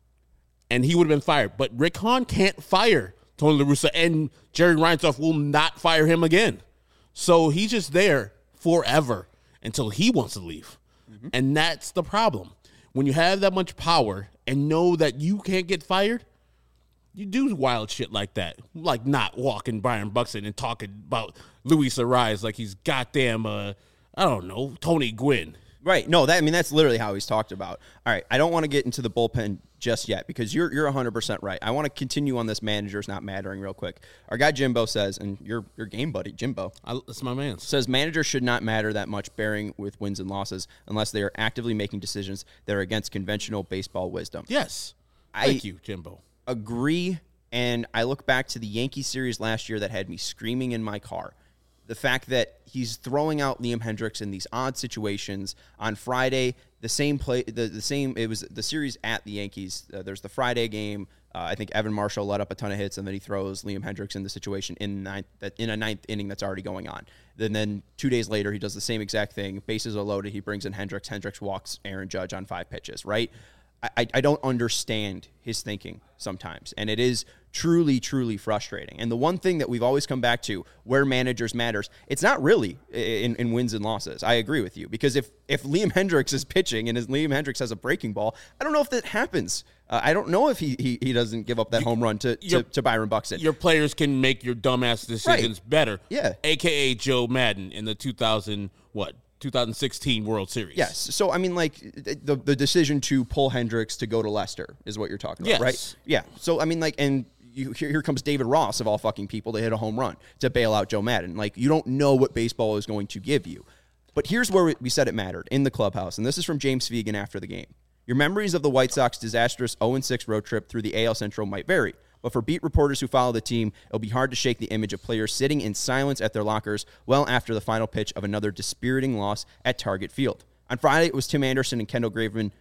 And he would have been fired. But Rick Hahn can't fire Tony La Russa. And Jerry Reinsdorf will not fire him again. So he's just there forever until he wants to leave. Mm-hmm. And that's the problem. When you have that much power and know that you can't get fired, you do wild shit like that. Like not walking Byron Buxton and talking about Luis Ariz like he's goddamn, uh, I don't know, Tony Gwynn. Right. No, that I mean, that's literally how he's talked about. All right. I don't want to get into the bullpen just yet because you're you're one hundred percent right. I want to continue on this managers not mattering real quick. Our guy Jimbo says, and your your game buddy, Jimbo. I, that's my man. Says managers should not matter that much bearing with wins and losses unless they are actively making decisions that are against conventional baseball wisdom. Yes. I Thank you, Jimbo. Agree. And I look back to the Yankee series last year that had me screaming in my car. The fact that he's throwing out Liam Hendricks in these odd situations on Friday, the same play, the, the same, it was the series at the Yankees. Uh, there's the Friday game. Uh, I think Evan Marshall let up a ton of hits, and then he throws Liam Hendricks in the situation in ninth, that in a ninth inning that's already going on. Then, then two days later, he does the same exact thing. Bases are loaded. He brings in Hendricks. Hendricks walks Aaron Judge on five pitches, right? I, I don't understand his thinking sometimes, and it is truly, truly frustrating. And the one thing that we've always come back to where managers matters, it's not really in, in wins and losses. I agree with you, because if, if Liam Hendricks is pitching and as Liam Hendricks has a breaking ball, I don't know if that happens. Uh, I don't know if he, he he doesn't give up that home run to, to, to Byron Buxton. Your players can make your dumbass decisions right. better. Yeah. A K A Joe Madden in the two thousand, what? twenty sixteen World Series. Yes. So, I mean, like, the the decision to pull Hendricks to go to Leicester is what you're talking about, yes. right? Yeah. So, I mean, like, and you, here, here comes David Ross, of all fucking people, to hit a home run to bail out Joe Madden. Like, you don't know what baseball is going to give you. But here's where we said it mattered, in the clubhouse, and this is from James Fegan after the game. Your memories of the White Sox disastrous oh and six road trip through the A L Central might vary, but for beat reporters who follow the team, it'll be hard to shake the image of players sitting in silence at their lockers well after the final pitch of another dispiriting loss at Target Field. On Friday, it was Tim Anderson and Kendall Graveman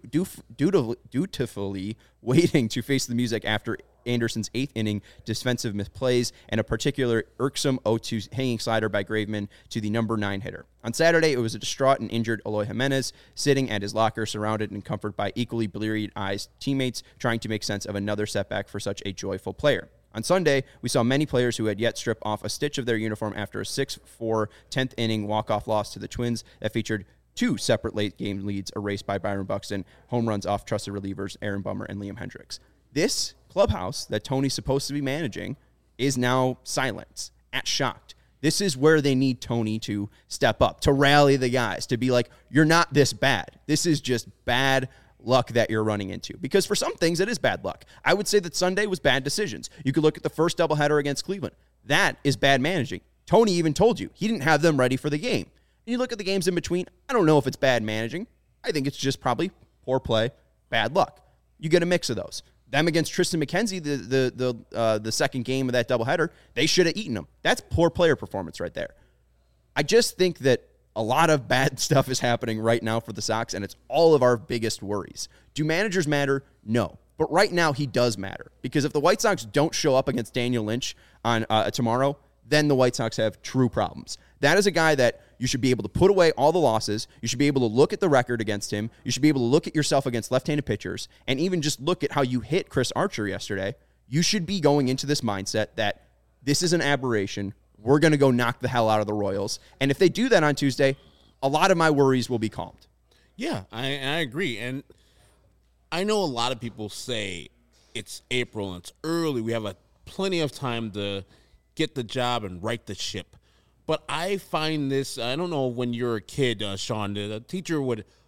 dutifully waiting to face the music after Anderson's eighth inning defensive misplays and a particular irksome oh two hanging slider by Graveman to the number nine hitter. On Saturday, it was a distraught and injured Eloy Jimenez sitting at his locker, surrounded and comforted by equally bleary-eyed teammates trying to make sense of another setback for such a joyful player. On Sunday, we saw many players who had yet stripped off a stitch of their uniform after a six four tenth inning walk-off loss to the Twins that featured two separate late-game leads erased by Byron Buxton, home runs off trusted relievers Aaron Bummer and Liam Hendricks. This clubhouse that Tony's supposed to be managing is now silent, at shocked. This is where they need Tony to step up, to rally the guys, to be like, you're not this bad. This is just bad luck that you're running into. Because for some things, it is bad luck. I would say that Sunday was bad decisions. You could look at the first doubleheader against Cleveland. That is bad managing. Tony even told you he didn't have them ready for the game. And you look at the games in between, I don't know if it's bad managing. I think it's just probably poor play, bad luck. You get a mix of those. Them against Tristan McKenzie, the the the uh, the second game of that doubleheader, they should have eaten them. That's poor player performance right there. I just think that a lot of bad stuff is happening right now for the Sox, and it's all of our biggest worries. Do managers matter? No. But right now, he does matter. Because if the White Sox don't show up against Daniel Lynch on uh, tomorrow, then the White Sox have true problems. That is a guy that you should be able to put away all the losses. You should be able to look at the record against him. You should be able to look at yourself against left-handed pitchers and even just look at how you hit Chris Archer yesterday. You should be going into this mindset that this is an aberration. We're going to go knock the hell out of the Royals. And if they do that on Tuesday, a lot of my worries will be calmed. Yeah, I, I agree. And I know a lot of people say it's April and it's early. We have a, plenty of time to get the job and right the ship. But I find this, I don't know, when you're a kid, uh, Sean, the teacher would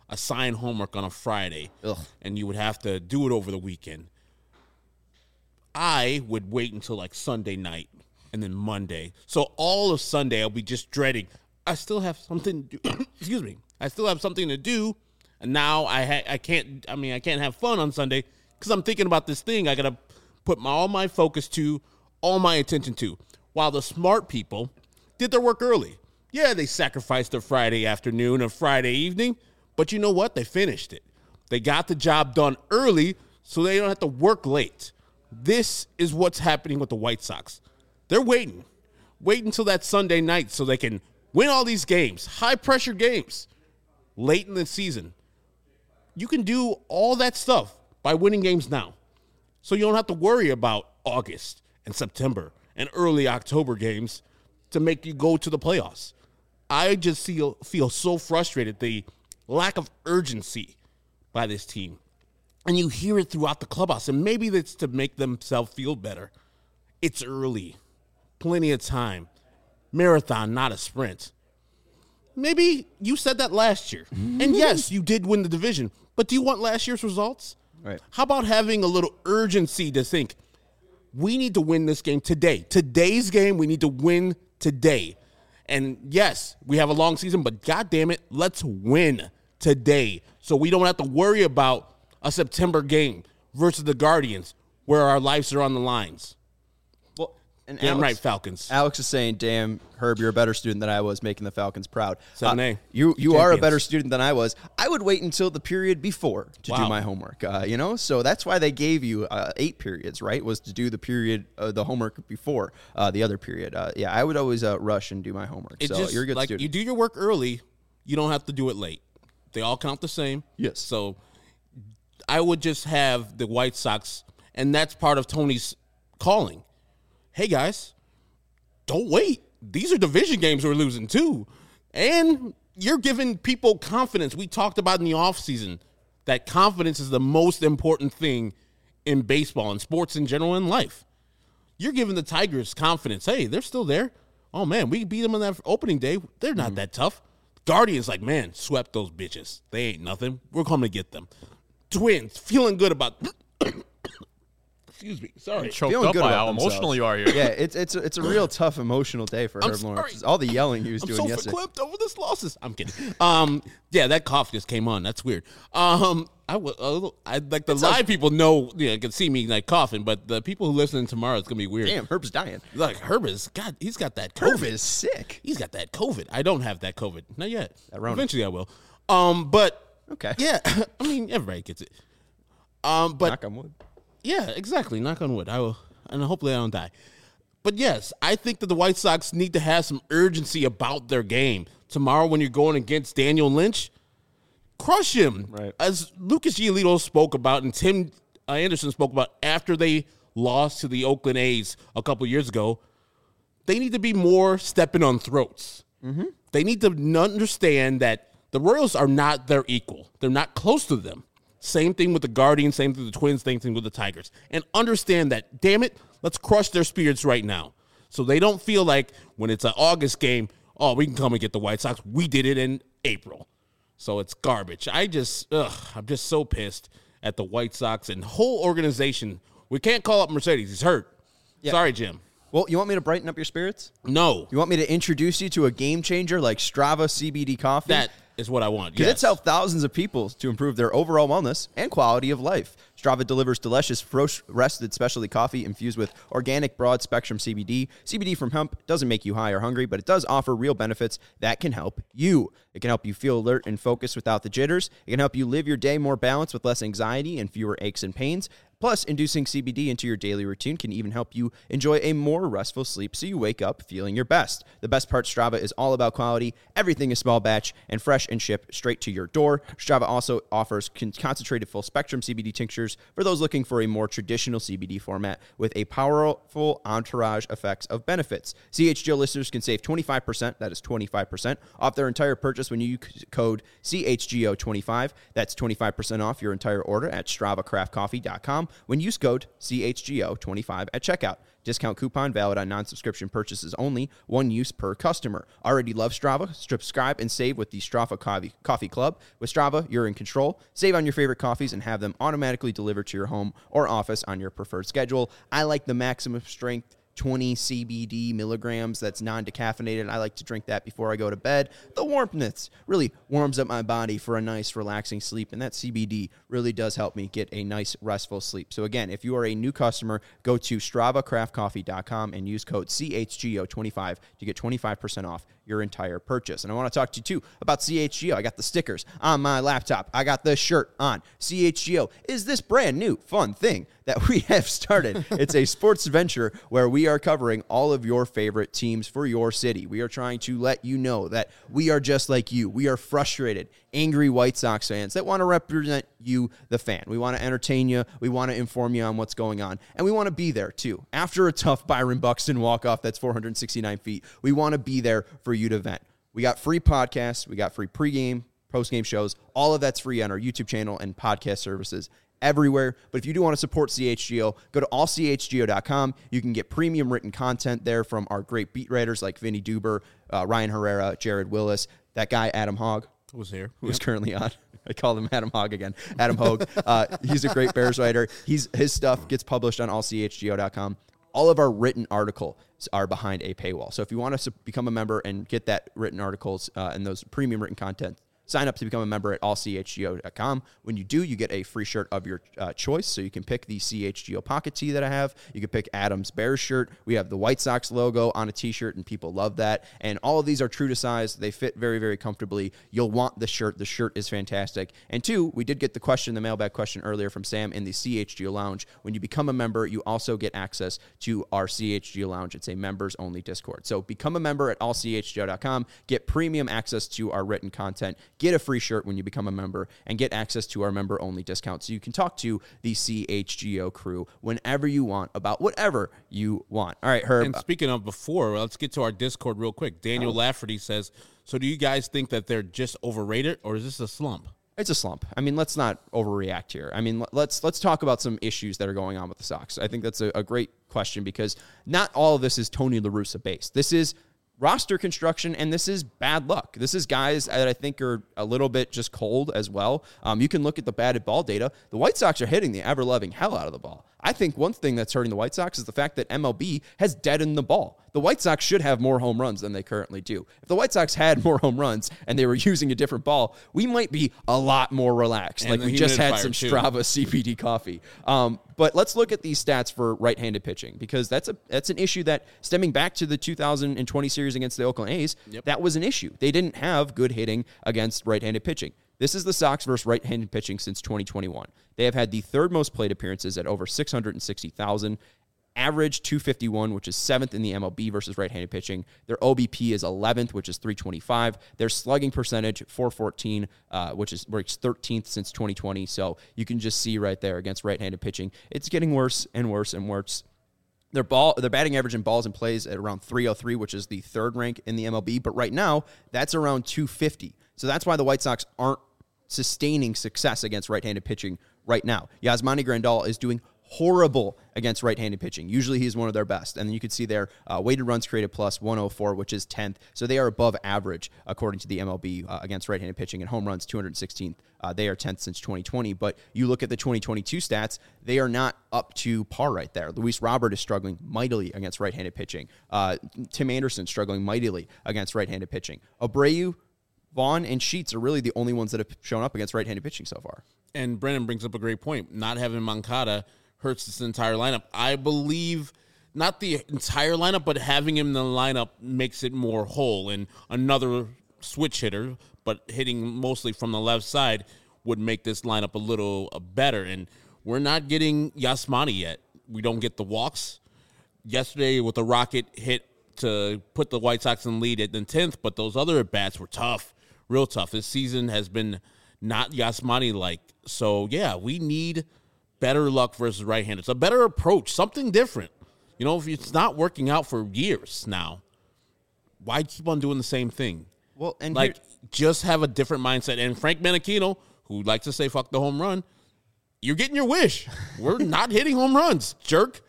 assign homework on a Friday, Ugh. and you would have to do it over the weekend. I would wait until like Sunday night and then Monday. So all of Sunday, I'll be just dreading. I still have something to do. Excuse me. I still have something to do. And now I ha- I can't, I mean, I can't have fun on Sunday because I'm thinking about this thing I got to put my, all my focus to, all my attention to. While the smart people did their work early. Yeah, they sacrificed their Friday afternoon or Friday evening, but you know what? They finished it. They got the job done early so they don't have to work late. This is what's happening with the White Sox. They're waiting. Wait until that Sunday night so they can win all these games, high-pressure games, late in the season. You can do all that stuff by winning games now. So you don't have to worry about August and September and early October games to make you go to the playoffs. I just feel, feel so frustrated, the lack of urgency by this team. And you hear it throughout the clubhouse, and maybe that's to make themselves feel better. It's early. Plenty of time. Marathon, not a sprint. Maybe you said that last year. And yes, you did win the division. But do you want last year's results? Right. How about having a little urgency to think, we need to win this game today. Today's game, we need to win today. And yes, we have a long season, but God damn it, let's win today so we don't have to worry about a September game versus the Guardians where our lives are on the lines. Well, and Damn Alex, right, Falcons. Alex is saying, damn, Herb, you're a better student than I was, making the Falcons proud. seven A. Uh, you you are a Champions. better student than I was. I would wait until the period before to do Wow. my homework, uh, you know? So that's why they gave you uh, eight periods, right, was to do the period, uh, the homework before uh, the other period. Uh, yeah, I would always uh, rush and do my homework. It so just, you're a good like, student. you do your work early, you don't have to do it late. They all count the same. Yes. So I would just have the White Sox, and that's part of Tony's calling. Hey, guys, don't wait. These are division games we're losing, too. And you're giving people confidence. We talked about in the offseason that confidence is the most important thing in baseball and sports in general in life. You're giving the Tigers confidence. Hey, they're still there. Oh, man, we beat them on that opening day. They're not mm-hmm. that tough. Guardians, like, man, swept those bitches. They ain't nothing. We're coming to get them. Twins, feeling good about excuse me, sorry. Choked Feeling up good by about how themselves. emotional you are here. Yeah, it's it's a, it's a real tough emotional day for I'm Herb sorry. Lawrence. All the yelling he was I'm doing so yesterday. verklempt over this losses. I'm kidding. Um, yeah, that cough just came on. That's weird. Um, I was a little. I like the live people know. Yeah, can see me like coughing, but the people who listen tomorrow, it's gonna be weird. Damn, Herb's dying. Like Herb is God. He's got that COVID. Herb is sick. He's got that COVID. I don't have that COVID. Not yet. That Rona. Eventually, I will. Um, but Okay. yeah, I mean everybody gets it. Um, but Knock on wood. yeah, exactly. Knock on wood. I will, and hopefully I don't die. But yes, I think that the White Sox need to have some urgency about their game. Tomorrow when you're going against Daniel Lynch, crush him. Right. As Lucas Giolito spoke about and Tim uh, Anderson spoke about after they lost to the Oakland A's a couple years ago, they need to be more stepping on throats. Mm-hmm. They need to understand that the Royals are not their equal. They're not close to them. Same thing with the Guardians, same thing with the Twins, same thing with the Tigers. And understand that, damn it, let's crush their spirits right now. So they don't feel like when it's an August game, oh, we can come and get the White Sox. We did it in April. So it's garbage. I just, ugh, I'm just so pissed at the White Sox and whole organization. We can't call up Mercedes. He's hurt. Yeah. Sorry, Jim. Well, you want me to brighten up your spirits? No. You want me to introduce you to a game changer like Strava C B D coffee? That is what I want. Because Yes. it's helped thousands of people to improve their overall wellness and quality of life. Strava delivers delicious, roasted specialty coffee infused with organic broad-spectrum C B D. C B D from hemp doesn't make you high or hungry, but it does offer real benefits that can help you. It can help you feel alert and focused without the jitters. It can help you live your day more balanced with less anxiety and fewer aches and pains. Plus, inducing C B D into your daily routine can even help you enjoy a more restful sleep so you wake up feeling your best. The best part, Strava is all about quality. Everything is small batch and fresh and shipped straight to your door. Strava also offers con- concentrated full-spectrum C B D tinctures for those looking for a more traditional C B D format with a powerful entourage effects of benefits. C H G O listeners can save twenty-five percent, that is twenty-five percent, off their entire purchase when you use code C H G O twenty-five. That's twenty-five percent off your entire order at strava craft coffee dot com. when you use code C H G O twenty-five at checkout. Discount coupon valid on non-subscription purchases only. One use per customer. Already love Strava? Subscribe and save with the Strava Coffee, Coffee Club. With Strava, you're in control. Save on your favorite coffees and have them automatically delivered to your home or office on your preferred schedule. I like the maximum strength twenty C B D milligrams that's non-decaffeinated. I like to drink that before I go to bed. The warmth really warms up my body for a nice relaxing sleep, and that C B D really does help me get a nice restful sleep. So again, if you are a new customer, go to strava craft coffee dot com and use code C H G O twenty-five to get twenty-five percent off your entire purchase. And I want to talk to you too about C H G O. I got the stickers on my laptop. I got the shirt on. C H G O is this brand new fun thing that we have started. It's a sports venture where we are covering all of your favorite teams for your city. We are trying to let you know that we are just like you. We are frustrated, angry White Sox fans that want to represent you, the fan. We want to entertain you. We want to inform you on what's going on. And we want to be there too. After a tough Byron Buxton walk-off that's four hundred sixty-nine feet, we want to be there for you to vent. We got free podcasts. We got free pregame, postgame shows. All of that's free on our YouTube channel and podcast services everywhere. But if you do want to support C H G O, go to all c h g o dot com. You can get premium written content there from our great beat writers like Vinny Duber, uh, Ryan Herrera, Jared Willis, that guy Adam Hogg was here, who yep. is currently on. I called him Adam Hogg again. Adam Hogue. Uh, he's a great Bears writer. He's his stuff gets published on all c h g o dot com. All of our written articles are behind a paywall. So if you want to become a member and get that written articles uh, and those premium written content, sign up to become a member at all c h g o dot com. When you do, you get a free shirt of your uh, choice. So you can pick the C H G O pocket tee that I have. You can pick Adam's Bears shirt. We have the White Sox logo on a t-shirt, and people love that. And all of these are true to size. They fit very, very comfortably. You'll want the shirt. The shirt is fantastic. And two, we did get the question, the mailbag question earlier from Sam in the C H G O Lounge. When you become a member, you also get access to our C H G O Lounge. It's a members-only Discord. So become a member at all c h g o dot com. Get premium access to our written content. Get a free shirt when you become a member, and get access to our member-only discount so you can talk to the C H G O crew whenever you want about whatever you want. All right, Herb. And speaking of before, let's get to our Discord real quick. Daniel oh. Lafferty says, so do you guys think that they're just overrated, or is this a slump? It's a slump. I mean, let's not overreact here. I mean, let's let's talk about some issues that are going on with the Sox. I think that's a, a great question because not all of this is Tony La Russa based. This is roster construction, and this is bad luck. This is guys that I think are a little bit just cold as well. Um, you can look at the batted ball data. The White Sox are hitting the ever-loving hell out of the ball. I think one thing that's hurting the White Sox is the fact that M L B has deadened the ball. The White Sox should have more home runs than they currently do. If the White Sox had more home runs and they were using a different ball, we might be a lot more relaxed. And like we just had some too. Strava C B D coffee. Um, but let's look at these stats for right-handed pitching because that's a that's an issue that stemming back to the two thousand twenty series against the Oakland A's, yep. that was an issue. They didn't have good hitting against right-handed pitching. This is the Sox versus right-handed pitching since twenty twenty-one. They have had the third most plate appearances at over six hundred sixty thousand. Average two fifty-one, which is seventh in the M L B versus right-handed pitching. Their O B P is eleventh, which is three twenty-five. Their slugging percentage, four fourteen, uh, which is where it's thirteenth since twenty twenty. So you can just see right there against right-handed pitching, it's getting worse and worse and worse. Their ball, their batting average in balls and plays at around three oh three, which is the third rank in the M L B. But right now, that's around two fifty. So that's why the White Sox aren't sustaining success against right-handed pitching right now. Yasmani Grandal is doing horrible against right-handed pitching. Usually he's one of their best. And then you can see their uh, weighted runs created plus one oh four, which is tenth. So they are above average according to the M L B uh, against right-handed pitching. And home runs, two hundred sixteenth. Uh, they are tenth since twenty twenty. But you look at the twenty twenty-two stats, they are not up to par right there. Luis Robert is struggling mightily against right-handed pitching. Uh, Tim Anderson struggling mightily against right-handed pitching. Abreu, Vaughn, and Sheets are really the only ones that have shown up against right-handed pitching so far. And Brennan brings up a great point. Not having Moncada hurts this entire lineup. I believe not the entire lineup, but having him in the lineup makes it more whole. And another switch hitter, but hitting mostly from the left side, would make this lineup a little uh, better. And we're not getting Yasmani yet. We don't get the walks. Yesterday with the rocket hit to put the White Sox in the lead at the tenth, but those other at-bats were tough, real tough. This season has been not Yasmani-like. So, yeah, we need better luck versus right-handed. It's a better approach, something different. You know, if it's not working out for years now, why keep on doing the same thing? Well, and like, here- just have a different mindset. And Frank Menachino, who likes to say fuck the home run, you're getting your wish. We're not hitting home runs, jerk.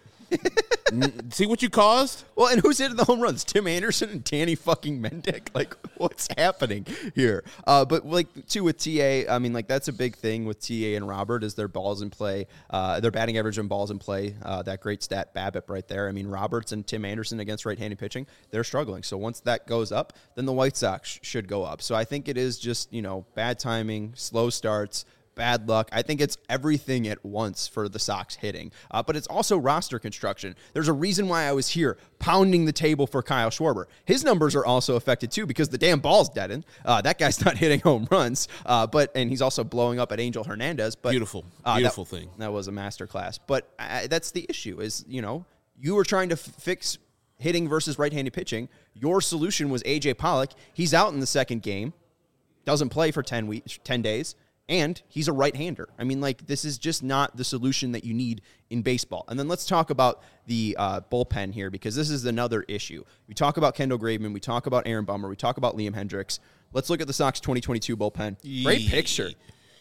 N- See what you caused? Well, and who's hitting the home runs? Tim Anderson and Danny fucking Mendick? Like, what's happening here? Uh, but, like, too, with T A, I mean, like, that's a big thing with T A and Robert is their balls in play. Uh, their batting average and balls in play. Uh, that great stat, BABIP right there. I mean, Roberts and Tim Anderson against right-handed pitching, they're struggling. So once that goes up, then the White Sox should go up. So I think it is just, you know, bad timing, slow starts, bad luck. I think it's everything at once for the Sox hitting. Uh, but it's also roster construction. There's a reason why I was here pounding the table for Kyle Schwarber. His numbers are also affected too because the damn ball's deadened. Uh, that guy's not hitting home runs. Uh, but and he's also blowing up at Angel Hernandez. But Beautiful. uh, Beautiful that, thing. That was a masterclass. But uh, that's the issue is, you know, you were trying to f- fix hitting versus right-handed pitching. Your solution was A J Pollock. He's out in the second game. Doesn't play for ten weeks, ten days. And he's a right-hander. I mean, like, this is just not the solution that you need in baseball. And then let's talk about the uh, bullpen here, because this is another issue. We talk about Kendall Graveman. We talk about Aaron Bummer. We talk about Liam Hendriks. Let's look at the Sox twenty twenty-two bullpen. Great picture.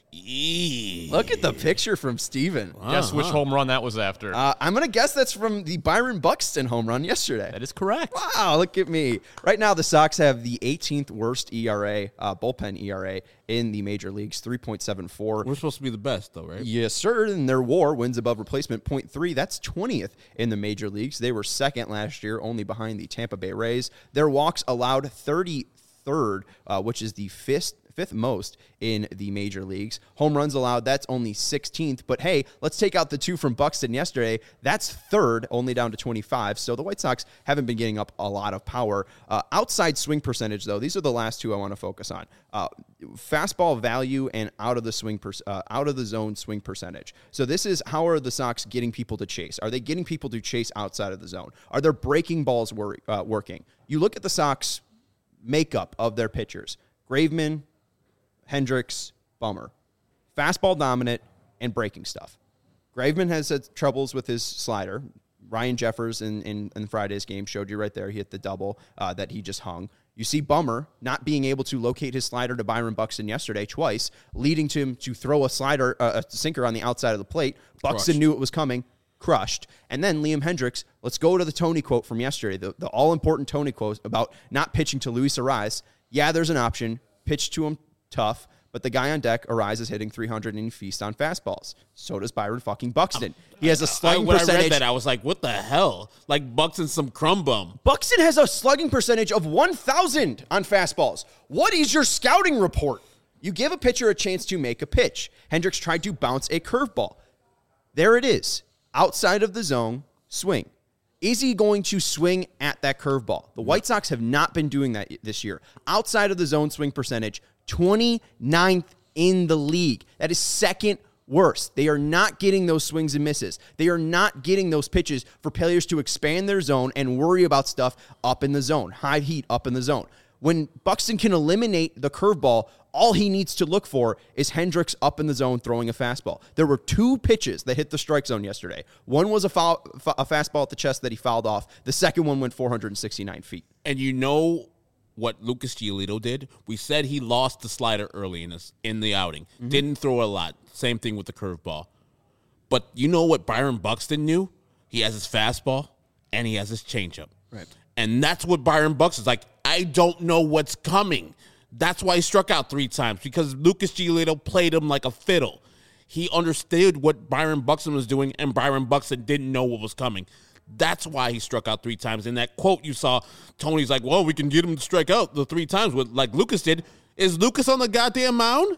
Eee. Look at the picture from Steven. Guess which home run that was after. Uh, I'm going to guess that's from the Byron Buxton home run yesterday. That is correct. Wow, look at me. Right now, the Sox have the eighteenth worst E R A, uh, bullpen E R A in the major leagues, three point seven four. We're supposed to be the best, though, right? Yes, sir. And their WAR, wins above replacement, point three. That's twentieth in the major leagues. They were second last year, only behind the Tampa Bay Rays. Their walks allowed thirty-third, uh, which is the fifth fifth most in the major leagues. Home runs allowed, that's only sixteenth. But hey, let's take out the two from Buxton yesterday. That's third, only down to twenty-five. So the White Sox haven't been getting up a lot of power. Uh, outside swing percentage, though, these are the last two I want to focus on. Uh, fastball value and out of the swing, per, uh, out of the zone swing percentage. So this is how are the Sox getting people to chase? Are they getting people to chase outside of the zone? Are their breaking balls wor- uh, working? You look at the Sox makeup of their pitchers. Graveman, Hendricks, Bummer. Fastball dominant and breaking stuff. Graveman has had troubles with his slider. Ryan Jeffers in, in, in Friday's game showed you right there. He hit the double uh, that he just hung. You see Bummer not being able to locate his slider to Byron Buxton yesterday twice, leading to him to throw a slider, uh, a sinker on the outside of the plate. Buxton Crushed. knew it was coming. Crushed. And then Liam Hendriks, let's go to the Tony quote from yesterday, the, the all-important Tony quote about not pitching to Luis Arraez. Yeah, there's an option. Pitch to him tough, but the guy on deck, Arraez, is hitting three hundred and he feasts on fastballs. So does Byron fucking Buxton. He has a slugging I, when percentage. I read that, I was like, what the hell? Like Buxton's some crumb bum. Buxton has a slugging percentage of one thousand on fastballs. What is your scouting report? You give a pitcher a chance to make a pitch. Hendricks tried to bounce a curveball. There it is. Outside of the zone, swing. Is he going to swing at that curveball? The White Sox have not been doing that this year. Outside of the zone swing percentage, twenty-ninth in the league. That is second worst. They are not getting those swings and misses. They are not getting those pitches for players to expand their zone and worry about stuff up in the zone, high heat up in the zone. When Buxton can eliminate the curveball, all he needs to look for is Hendricks up in the zone throwing a fastball. There were two pitches that hit the strike zone yesterday. One was a, foul, a fastball at the chest that he fouled off. The second one went four hundred sixty-nine feet. And you know what Lucas Giolito did? We said he lost the slider early in this in the outing. Mm-hmm. Didn't throw a lot. Same thing with the curveball. But you know what Byron Buxton knew? He has his fastball and he has his changeup. Right. And that's what Byron Buxton's like. I don't know what's coming. That's why he struck out three times, because Lucas Giolito played him like a fiddle. He understood what Byron Buxton was doing, and Byron Buxton didn't know what was coming. That's why he struck out three times. In that quote you saw, Tony's like, well, we can get him to strike out the three times with, like Lucas did. Is Lucas on the goddamn mound?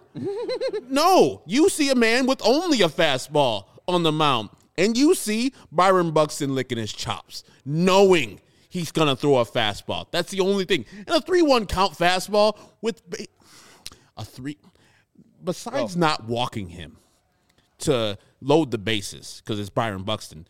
No. You see a man with only a fastball on the mound, and you see Byron Buxton licking his chops, knowing he's going to throw a fastball. That's the only thing. And a three one count fastball with a three, besides oh. not walking him to load the bases, because it's Byron Buxton,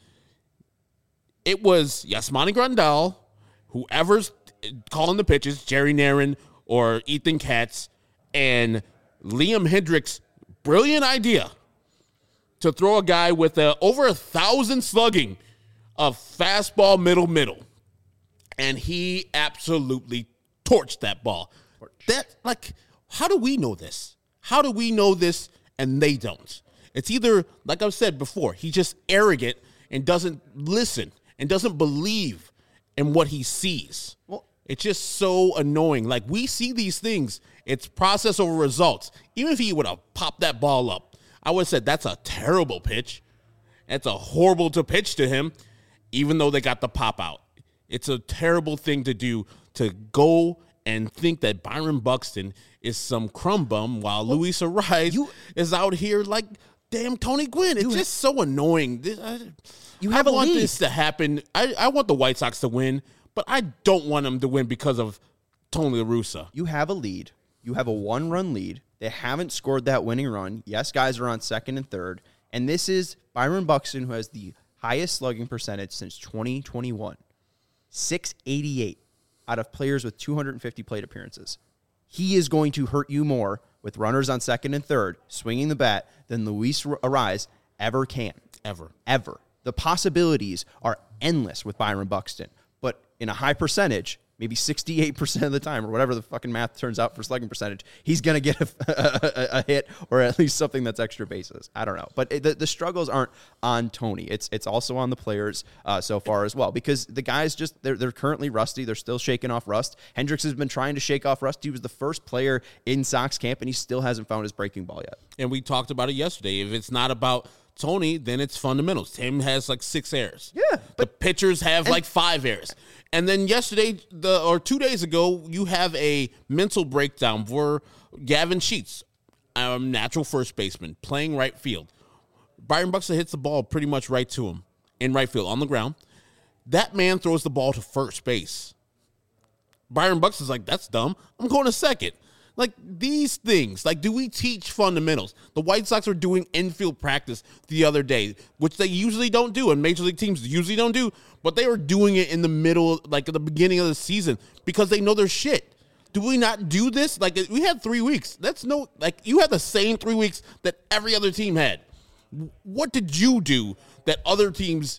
it was Yasmani Grandal, whoever's calling the pitches, Jerry Narin or Ethan Katz, and Liam Hendriks' brilliant idea to throw a guy with a, over a thousand slugging of fastball middle middle. And he absolutely torched that ball. That, like, how do we know this? How do we know this and they don't? It's either, like I've said before, he's just arrogant and doesn't listen and doesn't believe in what he sees. Well, it's just so annoying. Like, we see these things. It's process over results. Even if he would have popped that ball up, I would have said that's a terrible pitch. That's a horrible to pitch to him, even though they got the pop out. It's a terrible thing to do, to go and think that Byron Buxton is some crumb bum while well, Luis Arraez you, is out here like damn Tony Gwynn. It's just so annoying. This, I, you have I a want lead. this to happen. I, I want the White Sox to win, but I don't want them to win because of Tony La Russa. You have a lead. You have a one-run lead. They haven't scored that winning run. Yes, guys are on second and third. And this is Byron Buxton, who has the highest slugging percentage since twenty twenty-one. six eighty-eight out of players with two hundred fifty plate appearances. He is going to hurt you more with runners on second and third, swinging the bat, than Luis Arraez ever can. Ever. Ever. The possibilities are endless with Byron Buxton. But in a high percentage, maybe sixty-eight percent of the time, or whatever the fucking math turns out for slugging percentage, he's going to get a, a, a hit or at least something that's extra bases. I don't know. But it, the, the struggles aren't on Tony. It's it's also on the players uh, so far as well, because the guys just, they're, they're currently rusty. They're still shaking off rust. Hendricks has been trying to shake off rust. He was the first player in Sox camp, and he still hasn't found his breaking ball yet. And we talked about it yesterday. If it's not about Tony, then it's fundamentals. Tim has like six errors. Yeah, but the pitchers have like five errors. And then yesterday, the or two days ago, you have a mental breakdown for Gavin Sheets, a natural first baseman, playing right field. Byron Buxton hits the ball pretty much right to him in right field on the ground. That man throws the ball to first base. Byron Buxton's like, that's dumb. I'm going to second. Like, these things, like, do we teach fundamentals? The White Sox were doing infield practice the other day, which they usually don't do, and Major League teams usually don't do, but they were doing it in the middle, like, at the beginning of the season, because they know their shit. Do we not do this? Like, we had three weeks. That's no, like, you had the same three weeks that every other team had. What did you do that other teams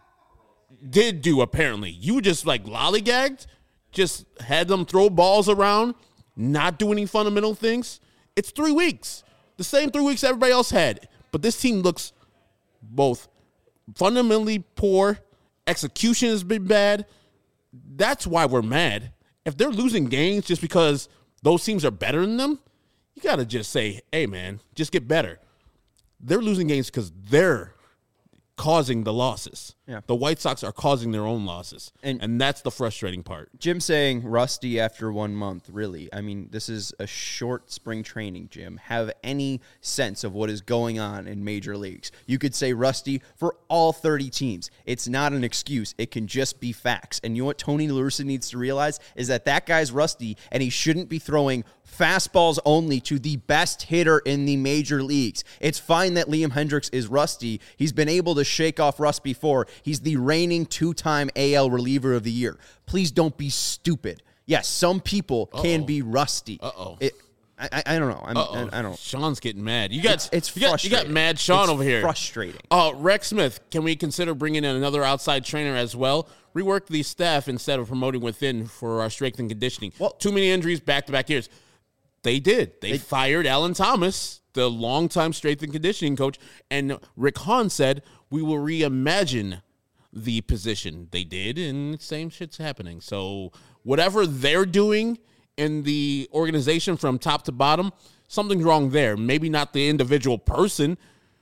did do, apparently? You just, like, lollygagged, just had them throw balls around, not do any fundamental things. It's three weeks. The same three weeks everybody else had. But this team looks both fundamentally poor. Execution has been bad. That's why we're mad. If they're losing games just because those teams are better than them, you got to just say, hey, man, just get better. They're losing games because they're causing the losses. Yeah. The White Sox are causing their own losses. And, and that's the frustrating part. Jim saying rusty after one month, really. I mean, this is a short spring training, Jim. Have any sense of what is going on in major leagues. You could say rusty for all thirty teams. It's not an excuse. It can just be facts. And you know what Tony La Russa needs to realize is that that guy's rusty, and he shouldn't be throwing fastballs only to the best hitter in the major leagues. It's fine that Liam Hendricks is rusty. He's been able to shake off rust before. He's the reigning two-time A L reliever of the year. Please don't be stupid. Yes, some people Uh-oh. can be rusty. Uh-oh. It, I, I don't know. I'm, I, I don't know. Sean's getting mad. You got it's, it's you got, frustrating. You got mad Sean it's over here. Frustrating. Uh, Rex Smith, can we consider bringing in another outside trainer as well? Rework the staff instead of promoting within for our strength and conditioning. Well, too many injuries back-to-back years. They did. They, they fired Alan Thomas, the longtime strength and conditioning coach, and Rick Hahn said, we will reimagine the position. They did, and the same shit's happening. So whatever they're doing in the organization from top to bottom, something's wrong there. Maybe not the individual person,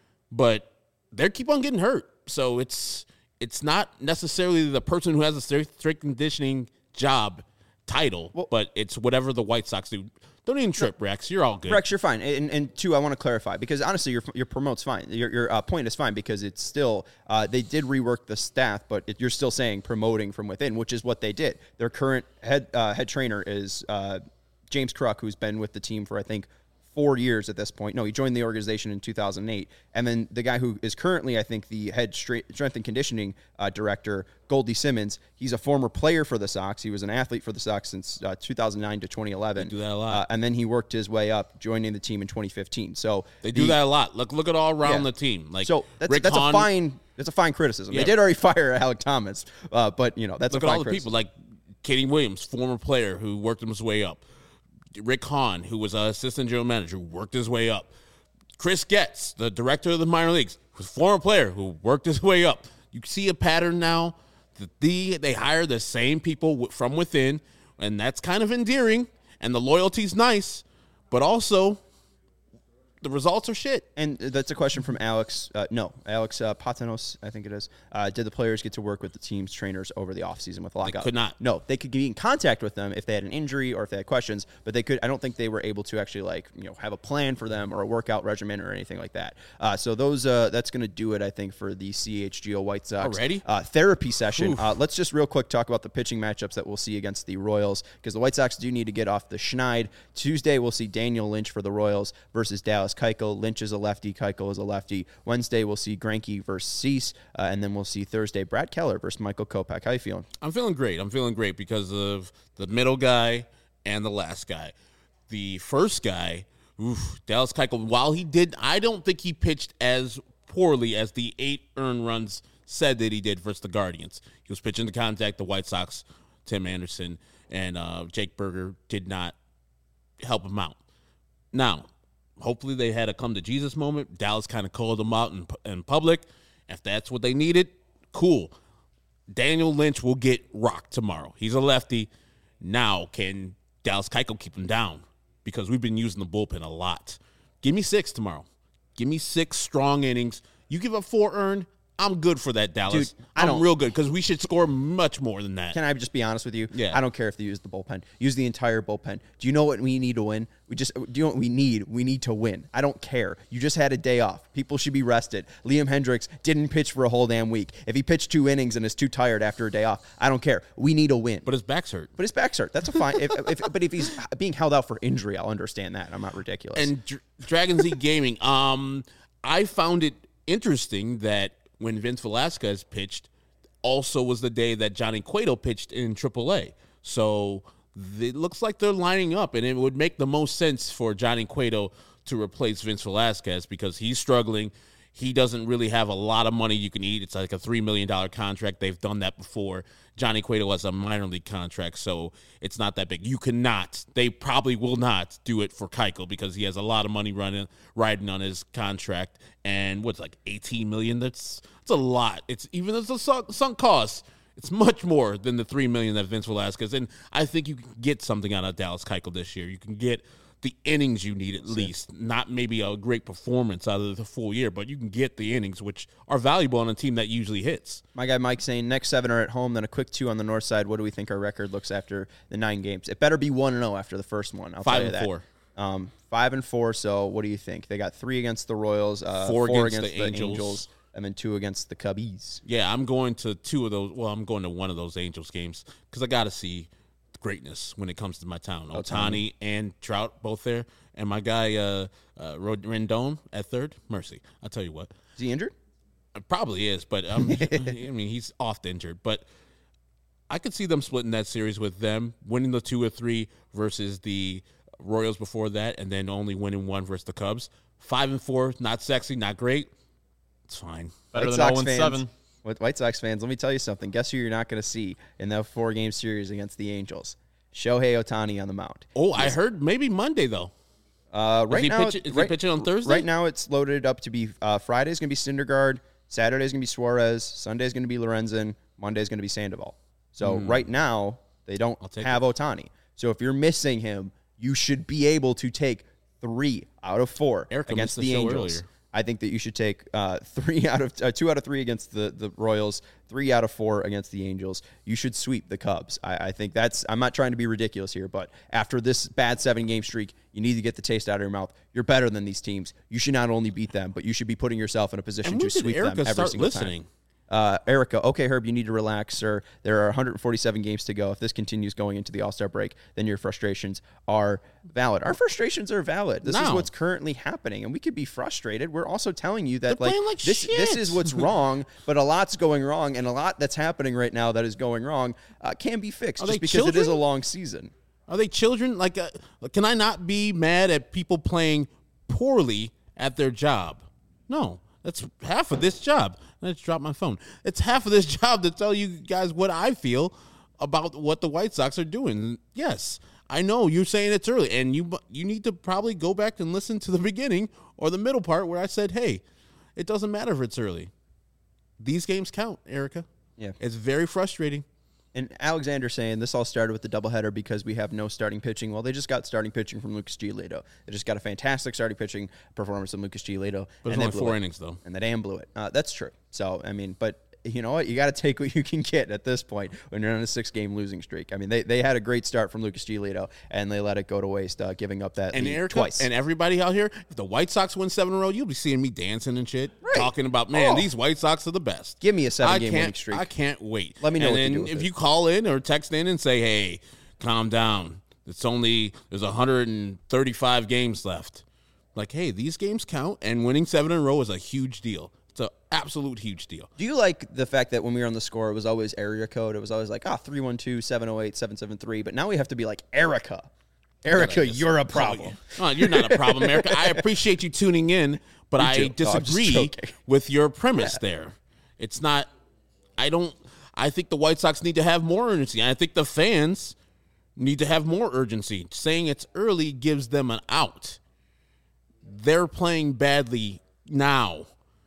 but they keep on getting hurt. So it's it's not necessarily the person who has a strength conditioning job title, well, but it's whatever the White Sox do. Don't even trip, Rex. You're all good. Rex, you're fine. And, and two, I want to clarify, because honestly, your your promote's fine. Your your uh, point is fine, because it's still, uh, they did rework the staff, but it, you're still saying promoting from within, which is what they did. Their current head uh, head trainer is uh, James Kruk, who's been with the team for, I think, four years at this point. No, he joined the organization in two thousand eight. And then the guy who is currently, I think, the head strength and conditioning uh, director, Goldie Simmons, he's a former player for the Sox. He was an athlete for the Sox since uh, two thousand nine to twenty eleven. They do that a lot. Uh, and then he worked his way up, joining the team in twenty fifteen. So they do the, that a lot. Look look at all around yeah. the team. Like So that's, Rick that's Hahn, a fine that's a fine criticism. Yeah. They did already fire Alec Thomas, uh, but, you know, that's look a fine at all the criticism. people, like Katie Williams, former player who worked his way up. Rick Hahn, who was an assistant general manager, who worked his way up. Chris Getz, the director of the minor leagues, was a former player who worked his way up. You see a pattern now that the, they hire the same people w- from within, and that's kind of endearing, and the loyalty's nice, but also the results are shit. And that's a question from Alex. Uh, no, Alex uh, Patanos, I think it is. Uh, did the players get to work with the team's trainers over the offseason with lockout? could not. No, they could be in contact with them if they had an injury or if they had questions, but they could. I don't think they were able to actually like you know have a plan for them or a workout regimen or anything like that. Uh, so those uh, that's going to do it, I think, for the C H G O White Sox Already? uh, therapy session. Uh, let's just real quick talk about the pitching matchups that we'll see against the Royals because the White Sox do need to get off the schneid. Tuesday we'll see Daniel Lynch for the Royals versus Dallas Keuchel. Lynch is a lefty, Keuchel is a lefty. Wednesday, we'll see Greinke versus Cease, uh, and then we'll see Thursday Brad Keller versus Michael Kopech. How you feeling? I'm feeling great. I'm feeling great because of the middle guy and the last guy. The first guy, oof, Dallas Keuchel, while he did, I don't think he pitched as poorly as the eight earned runs said that he did versus the Guardians. He was pitching to contact. The White Sox, Tim Anderson, and uh, Jake Berger did not help him out. Now, hopefully they had a come-to-Jesus moment. Dallas kind of called them out in, in public. If that's what they needed, cool. Daniel Lynch will get rocked tomorrow. He's a lefty. Now, can Dallas Keuchel keep him down? Because we've been using the bullpen a lot. Give me six tomorrow. Give me six strong innings. You give up four earned, I'm good for that, Dallas. Dude, I I'm don't- real good because we should score much more than that. Can I just be honest with you? Yeah. I don't care if they use the bullpen. Use the entire bullpen. Do you know what we need to win? We just do you know what we need? We need to win. I don't care. You just had a day off. People should be rested. Liam Hendricks didn't pitch for a whole damn week. If he pitched two innings and is too tired after a day off, I don't care. We need a win. But his back's hurt. But his back's hurt. That's a fine. if, if, but if he's being held out for injury, I'll understand that. I'm not ridiculous. And Dr- Dragon Z Gaming, um, I found it interesting that when Vince Velasquez pitched, also was the day that Johnny Cueto pitched in triple A. So it looks like they're lining up, and it would make the most sense for Johnny Cueto to replace Vince Velasquez because he's struggling. He doesn't really have a lot of money you can eat. It's like a three million dollars contract. They've done that before. Johnny Cueto has a minor league contract, so it's not that big. You cannot, they probably will not do it for Keuchel because he has a lot of money running, riding on his contract. And what's like eighteen million dollars? That's, that's a lot. It's even as a sunk, sunk cost, it's much more than the three million dollars that Vince Velasquez. And I think you can get something out of Dallas Keuchel this year. You can get the innings you need at least, not maybe a great performance out of the full year, but you can get the innings, which are valuable on a team that usually hits. My guy Mike saying next seven are at home, then a quick two on the north side. What do we think our record looks after the nine games? It better be one and zero after the first one. I'll Five tell you and that. four. Um, five and four. So what do you think? They got three against the Royals, uh, Four four, against against, the the, Angels. Angels. and then two against the Cubbies. Yeah, I'm going to two of those. Well, I'm going to one of those Angels games because I got to see greatness when it comes to my town. Ohtani and Trout both there. And my guy uh, uh, Rendon at third. Mercy. I'll tell you what. Is he injured? It probably is, but um, I mean, he's oft injured. But I could see them splitting that series with them, winning the two or three versus the Royals before that, and then only winning one versus the Cubs. Five and four, not sexy, not great. It's fine. Better White than Sox oh and fans, seven. With White Sox fans, let me tell you something. Guess who you're not going to see in that four-game series against the Angels? Shohei Ohtani on the mound. Oh, I heard maybe Monday, though. Uh, right he now, pitch- is he right, pitching on Thursday? Right now, it's loaded up to be uh, Friday's going to be Syndergaard, Saturday's going to be Suarez, Sunday's going to be Lorenzen, Monday's going to be Sandoval. So right now, they don't I'll take have Ohtani. So if you're missing him, you should be able to take three out of four Erica against missed the the show Angels. earlier. I think that you should take uh, three out of uh, two out of three against the, the Royals, three out of four against the Angels. You should sweep the Cubs. I, I think that's. I'm not trying to be ridiculous here, but after this bad seven game streak, you need to get the taste out of your mouth. You're better than these teams. You should not only beat them, but you should be putting yourself in a position And to when did sweep Erica them every start single listening? time. Uh, Erica, okay, Herb, you need to relax, sir. There are one hundred forty-seven games to go. If this continues going into the All-Star break, then your frustrations are valid. Our frustrations are valid. This is No. what's currently happening, and we could be frustrated. We're also telling you that They're like, playing like this, this shit. is what's wrong, but a lot's going wrong, and a lot that's happening right now that is going wrong uh, can be fixed Are just they because it is a children? long season. Are they children? Like, uh, can I not be mad at people playing poorly at their job? No, that's half of this job. Let's drop my phone. It's half of this job to tell you guys what I feel about what the White Sox are doing. Yes, I know you're saying it's early, and you you need to probably go back and listen to the beginning or the middle part where I said, hey, it doesn't matter if it's early. These games count, Erica. Yeah. It's very frustrating. And Alexander saying this all started with the doubleheader because we have no starting pitching. Well, they just got starting pitching from Lucas Giolito. They just got a fantastic starting pitching performance from Lucas Giolito. But it's and only they blew four it. innings, though. And the damn blew it. Uh, that's true. So, I mean, but you know what? You got to take what you can get at this point when you're on a six-game losing streak. I mean, they, they had a great start from Lucas Giolito, and they let it go to waste, uh, giving up that And lead Erica, twice. and everybody out here, if the White Sox win seven in a row, you'll be seeing me dancing and shit, Right. talking about, man, Oh. these White Sox are the best. Give me a I seven-game winning can't, streak. I can't wait. Let me know and what to then do with if it. you call in or text in and say, hey, calm down. It's only, there's one hundred thirty-five games left. Like, hey, these games count, and winning seven in a row is a huge deal. It's an absolute huge deal. Do you like the fact that when we were on the score, it was always area code? It was always like, ah, three one two, seven oh eight, seven seven three. But now we have to be like, Erica. Erica, you're a problem. Oh, you're not a problem, Erica. I appreciate you tuning in, but Me I too. No, I'm just disagree joking. with your premise there. It's not, I don't, I think the White Sox need to have more urgency. I think the fans need to have more urgency. Saying it's early gives them an out. They're playing badly now.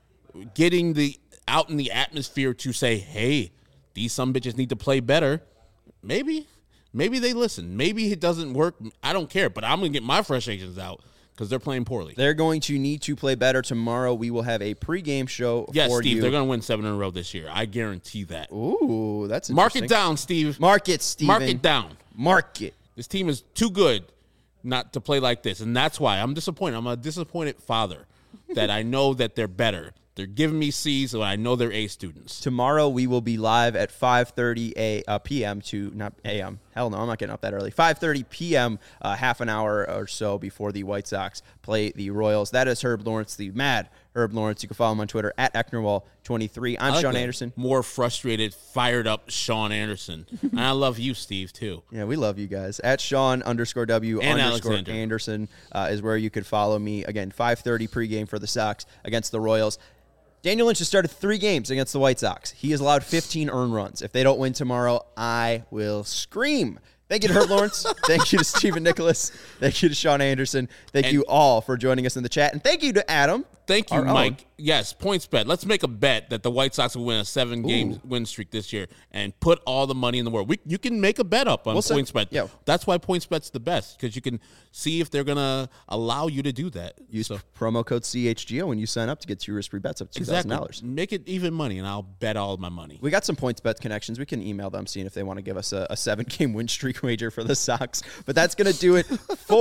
Getting the out in the atmosphere to say, hey, these some bitches need to play better. Maybe, maybe they listen. Maybe it doesn't work. I don't care, but I'm going to get my frustrations out because they're playing poorly. They're going to need to play better tomorrow. We will have a pregame show Yes, for Steve, you. they're going to win seven in a row this year. I guarantee that. Ooh, that's Mark interesting. it down, Steve. Mark it, Steven. Mark it down. Mark it. This team is too good not to play like this, and that's why I'm disappointed. I'm a disappointed father that I know that they're better. They're giving me C's, so I know they're A students. Tomorrow we will be live at five thirty a, uh, p.m. to not a m. Hell no, I'm not getting up that early. five thirty p.m., uh, half an hour or so before the White Sox play the Royals. That is Herb Lawrence, the mad Herb Lawrence. You can follow him on Twitter at Ecknerwall twenty-three. I'm I like Sean the Anderson. More frustrated, fired up Sean Anderson. And I love you, Steve, too. Yeah, we love you guys. At Sean underscore W And underscore Alexander. Anderson uh, is where you could follow me. Again, five thirty pregame for the Sox against the Royals. Daniel Lynch has started three games against the White Sox. He has allowed fifteen earned runs. If they don't win tomorrow, I will scream. Thank you to Herb Lawrence. Thank you to Stephen Nicholas. Thank you to Sean Anderson. Thank And- you all for joining us in the chat. And thank you to Adam. Thank you, our own. Mike. Yes, points bet. Let's make a bet that the White Sox will win a seven-game win streak this year and put all the money in the world. We, you can make a bet up on We'll say- points bet. yeah. That's why points bet's the best, because you can see if they're going to allow you to do that. Use So, promo code C H G O when you sign up to get two risk-free bets up to two thousand exactly. dollars. Make it even money, and I'll bet all of my money. We got some points bet connections. We can email them, seeing if they want to give us a, a seven-game win streak wager for the Sox. But that's going to do it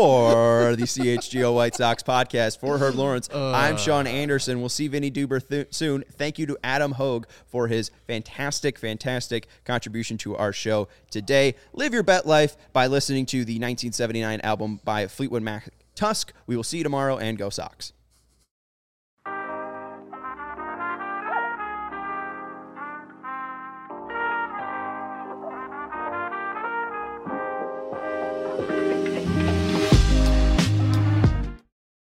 for the C H G O White Sox podcast. For Herb Lawrence, uh, I'm Sean Anderson. We'll see Vinny Duber th- soon. Thank you to Adam Hogue for his fantastic, fantastic contribution to our show today. Live your bet life by listening to the nineteen seventy-nine album by Fleetwood Mac, Tusk. We will see you tomorrow, and go Sox.